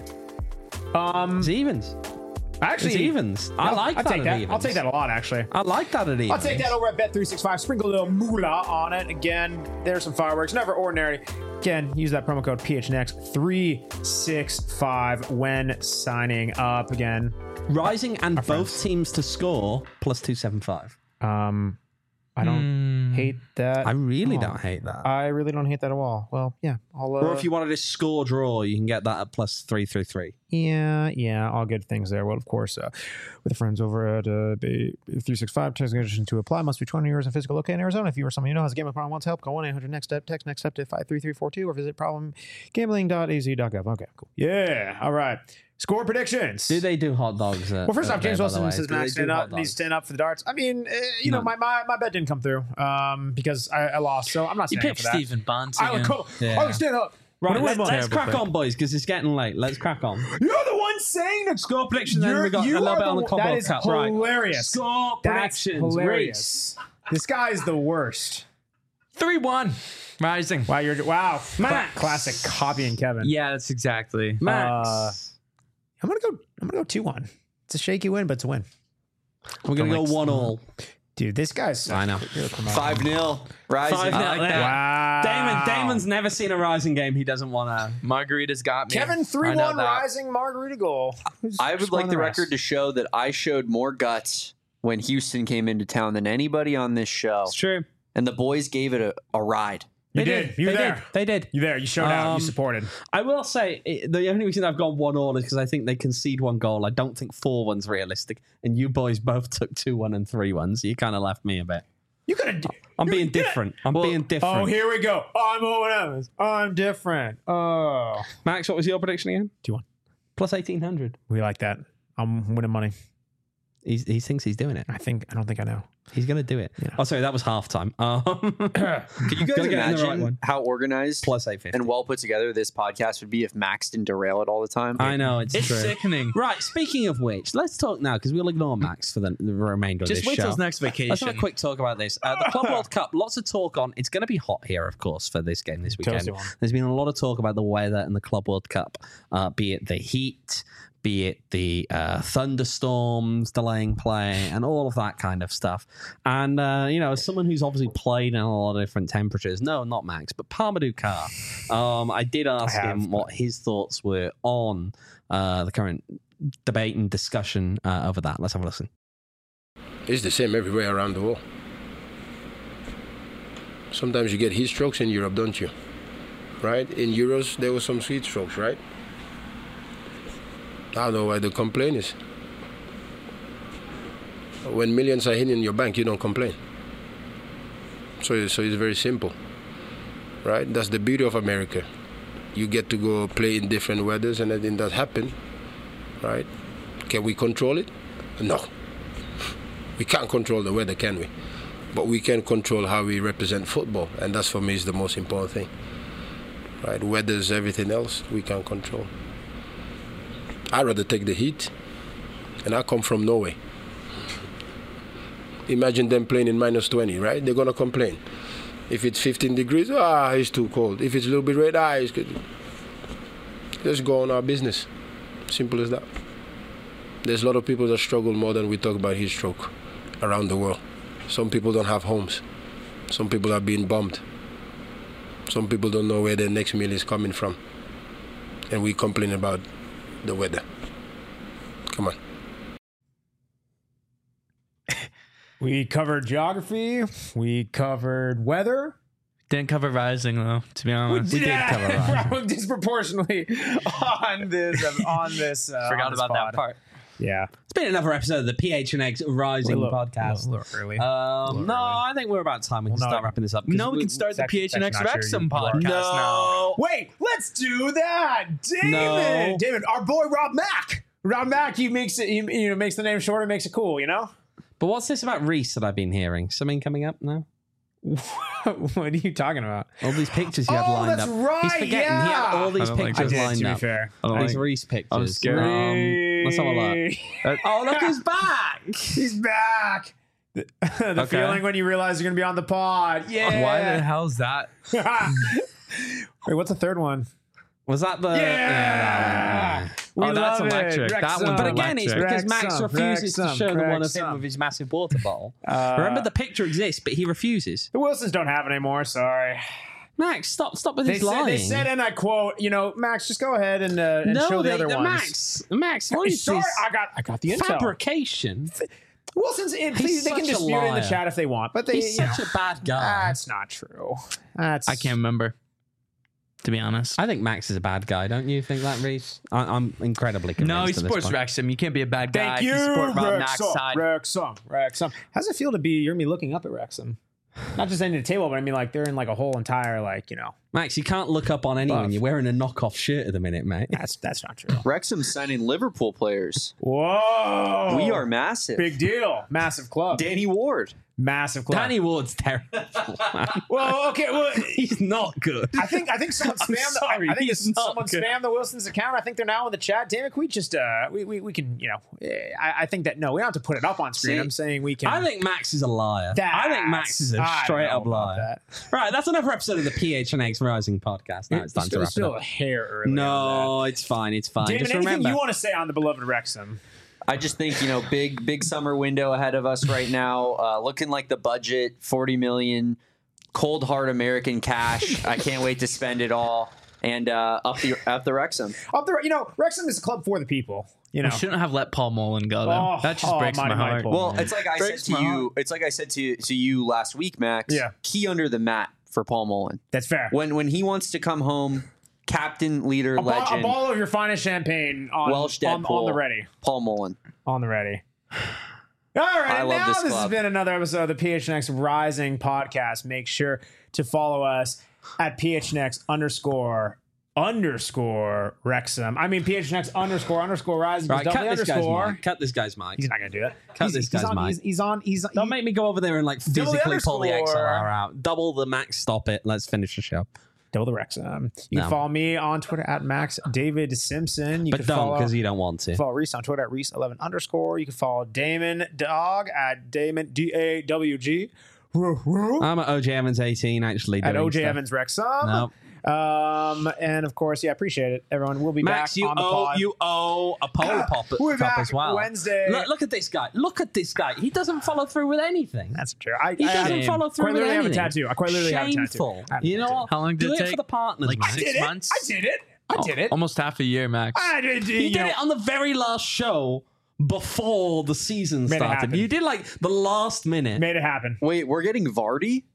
Um, It's evens. actually, It's evens. I no, like I'll that take at that. evens. I'll take that a lot, actually. I like that at evens. I'll take that over at Bet three sixty-five. Sprinkle a little moolah on it. Again, there's some fireworks. Never ordinary. Again, use that promo code P H N X three sixty-five when signing up. Again, Rising and both friends. teams to score plus two seventy-five. um, I don't hate that. I really at all. don't hate that. I really don't hate that at all. Well, yeah, I'll. Uh, or if you wanted to score draw, you can get that at plus three three three. Yeah, yeah, all good things there. Well, of course, uh, with the friends over at uh, three sixty-five, text conditions to apply. Must be twenty years of physical located in Arizona. If you or someone you know has a gambling problem, wants help, call one eight hundred next step, text next step to five three three four two, or visit problem gambling dot a z dot gov. Okay, cool. Yeah, all right. Score predictions. Do they do hot dogs? At, Well, first at off, James there, by the Wilson way? says Do they Max do stand hot up, needs dogs? to stand up for the darts. I mean, uh, you know, No. my, my my bet didn't come through um, because I, I lost, so I'm not You standing up picked for that. Stephen Bunce I would again. cool. Yeah. I would stand up. Right, Wanna let, win let's one. crack on, boys, because it's getting late. Let's crack on. You're the one saying the Score prediction, then You're- we got a you little are bit on the one- Club that World is Cup. Right. hilarious. Score That's predictions. hilarious. This guy's the worst. three one. Rising. Wow, you're wow. Cla- classic copying Kevin. Yeah, that's exactly. Max. Uh, I'm gonna go. I'm gonna go two one. It's a shaky win, but it's a win. We're going to go one all. Dude, this guy's. I know. five nil. Rising. Five I nil. like Yeah. Wow. Damon, Damon's never seen a Rising game. He doesn't want to. Margarita's got me. Kevin three I know one that. rising margarita goal. Who's I would scoring like the rest? record to show that I showed more guts when Houston came into town than anybody on this show. It's true. And the boys gave it a, a ride. You They did. did. You were they there. did. They did. You there. You showed out. Um, You supported. I will say it, the only reason I've gone one all is because I think they concede one goal. I don't think four one's realistic, and you boys both took two one and three one, so you kind of left me a bit. You could have. I'm being different. I'm being different. Oh, here we go. I'm O and M's. I'm different. Oh. Max, what was your prediction again? two one. Plus eighteen hundred. We like that. I'm winning money. He's, he thinks he's doing it. I think. I don't think I know. He's going to do it. Yeah. Oh, sorry, that was halftime. Um, Could you guys Gotta get in the right imagine one. how organized plus eight fifty. and well put together this podcast would be if Max didn't derail it all the time? I know, it's, It's true. sickening. Right, speaking of which, let's talk now because we'll ignore Max for the, the remainder Just of this wait show. till his next vacation. Let's have a quick talk about this. Uh, the Club World Cup, lots of talk on. It's going to be hot here, of course, for this game this weekend. Toasty one. There's been a lot of talk about the weather in the Club World Cup, uh, be it the heat, be it the uh, thunderstorms delaying play, and all of that kind of stuff. And, uh, you know, as someone who's obviously played in a lot of different temperatures, no, not Max, but Parmadou Carr, um, I did ask I have, him what his thoughts were on uh, the current debate and discussion uh, over that. Let's have a listen. It's the same everywhere around the world. Sometimes you get heat strokes in Europe, don't you? Right? In Euros, there were some heat strokes, right? I don't know why the complaint is. When millions are hitting your bank, you don't complain. So, so it's very simple, right? That's the beauty of America. You get to go play in different weathers, and then that happen, right? Can we control it? No. We can't control the weather, can we? But we can control how we represent football, and that's for me is the most important thing, right? Weather's everything else we can't control. I'd rather take the heat, and I come from Norway. Imagine them playing in minus twenty, right? They're gonna complain. If it's fifteen degrees, ah, it's too cold. If it's a little bit red, ah, it's good. Let's go on our business. Simple as that. There's a lot of people that struggle more than we talk about heat stroke around the world. Some people don't have homes. Some people are being bombed. Some people don't know where their next meal is coming from. And we complain about the weather. Come on. We covered geography. We covered weather. Didn't cover Rising though, to be honest. We did cover Rising. Disproportionately on this. On this. Uh, Forgot on this about pod. that part. Yeah. It's been another episode of the P H N X Rising We're a little- podcast. A little early. Um, no, early. I think we're about time we can Well, no. start wrapping this up. 'cause No, we can start It's the actually- P H N X it's actually not Wrexham true. You- you are- podcast now. No. Wait, let's do that. David. No. David, our boy Rob Mack. Rob Mack, he makes it, he, you know, makes the name shorter, makes it cool, you know? But what's this about Reese that I've been hearing? Something coming up now? What are you talking about? All these pictures he had Oh, lined that's up. right, He's forgetting he yeah. had all these I don't like pictures this. lined to be up. fair. I don't These like- Reese pictures. I was scared. Um, let's have a look. Oh, look who's back! He's back. The, the Okay. feeling when you realize you're going to be on the pod. Yeah. Why the hell's that? Wait, what's the third one? Was that the? Yeah. that We Oh, that's love it. electric. That Wrexham. one's one. But again, it's electric. because Max Wrexham, refuses to Wrexham, show the one of Wrexham. him with his massive water bottle. Uh, Remember, the picture exists, but he refuses. The Wilsons don't have it anymore. Sorry. Max, stop, stop with They his said, lying. they said, and I quote, you know, Max, just go ahead and, uh, and no, show the they, other the ones. Max, Max, what is Sorry, this I got, I got the intel. fabrication? Wilson's in. Please, they can such a dispute it in the liar. chat if they want, but they. He's you such know, a bad guy. That's not true. That's I can't remember, to be honest. I think Max is a bad guy. Don't you think that, Reese? I, I'm incredibly convinced. No, he at this supports point. Wrexham. You can't be a bad guy. Thank you, if support Rob Mack's Wrexham. side. Wrexham. Wrexham. How's it feel to be? You're me looking up at Wrexham, not just ending the table, but I mean, like they're in like a whole entire like you know. Max, you can't look up on anyone. Buff. You're wearing a knockoff shirt at the minute, mate. That's that's not true. Wrexham's signing Liverpool players. Whoa, We are massive. big deal, massive club, Danny Ward. massive club. Danny Ward's terrible. man. Well, okay, well. He's not good. I think I think someone I'm spammed. sorry, I, I think he's it's not someone good. spammed the Wilson's account. I think they're now in the chat. Damn it, can we just uh we, we, we can you know eh, I, I think that no, we don't have to put it up on screen. See, I'm saying we can. I think Max is a liar. That's- I think Max is a I don't straight know up about liar. that. Right, that's another episode of the P H N X Rising podcast. Now it's time to still, wrap it still up. a hair early. on No, it's fine. It's fine. that. Damon, Just anything remember. you want to say on the beloved Wrexham? I just think, you know, big big summer window ahead of us right now. Uh, looking like the budget, forty million, cold hard American cash. I can't wait to spend it all. And uh, up the up the Wrexham. Up there, you know, Wrexham is a club for the people. You know, We shouldn't have let Paul Mullen go. Though. Oh, that just oh, breaks mighty, my mighty heart. Paul. Well, it's like I said Breaks to my you. heart. It's like I said to to you last week, Max. Yeah. Key under the mat for Paul Mullen. that's fair. When when he wants to come home, captain, leader, a, ball, a legend, ball of your finest champagne on Welsh on, Deadpool, on the ready. Paul Mullen. On the ready. All right, I and love now this this, has club. been another episode of the P H N X Rising podcast. Make sure to follow us at P H N X underscore underscore Wrexham. I mean P H N X underscore underscore Rising. Right, cut Double this guy's underscore. mic. Cut this guy's mic. He's not gonna do that. Cut he's, this he's guy's on, mic. He's, he's on. He's Don't make me go over there and like Double the physically pull the X L underscore. R out. Double the Max. Stop it. Let's finish the show. Double the Wrexham. You can No. follow me on Twitter at Max David Simpson. You But can don't follow because you don't want to. Follow Reese on Twitter at Reese eleven underscore. You can follow Damon Dog at Damon D A W G. I'm at O J Evans eighteen actually. At doing O J stuff. Evans Wrexham. Nope. Um, and of course, yeah, appreciate it, everyone. We'll be Max, back you on the owe pod. you owe a polar pop, We're cup back as well. Wednesday. Look, look at this guy. Look at this guy. He doesn't follow through with anything. That's true. I, He I doesn't I follow through quite with literally have a anything. tattoo. I quite literally have a tattoo. Shameful. I have a You know tattoo. what? How long did Do it it take? for the partners, Like man. six did it. months? I did it. I did it. Almost half a year, Max. I did. You did it on the very last show before the season Made it started. happen. You did like the last minute. Made it happen. Wait, we're getting Vardy?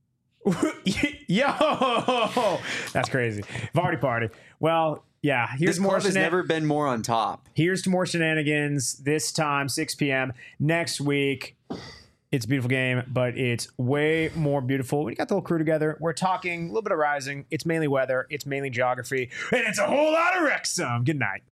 Yo, that's crazy. Vardy party. Well, yeah. Here's This more. club has shenan- never been more on top. Here's to more shenanigans. This time, six p.m. next week. It's a beautiful game, but it's way more beautiful. We got the whole crew together. We're talking a little bit of Rising. It's mainly weather. It's mainly geography, and it's a whole lot of Wrexham. Good night.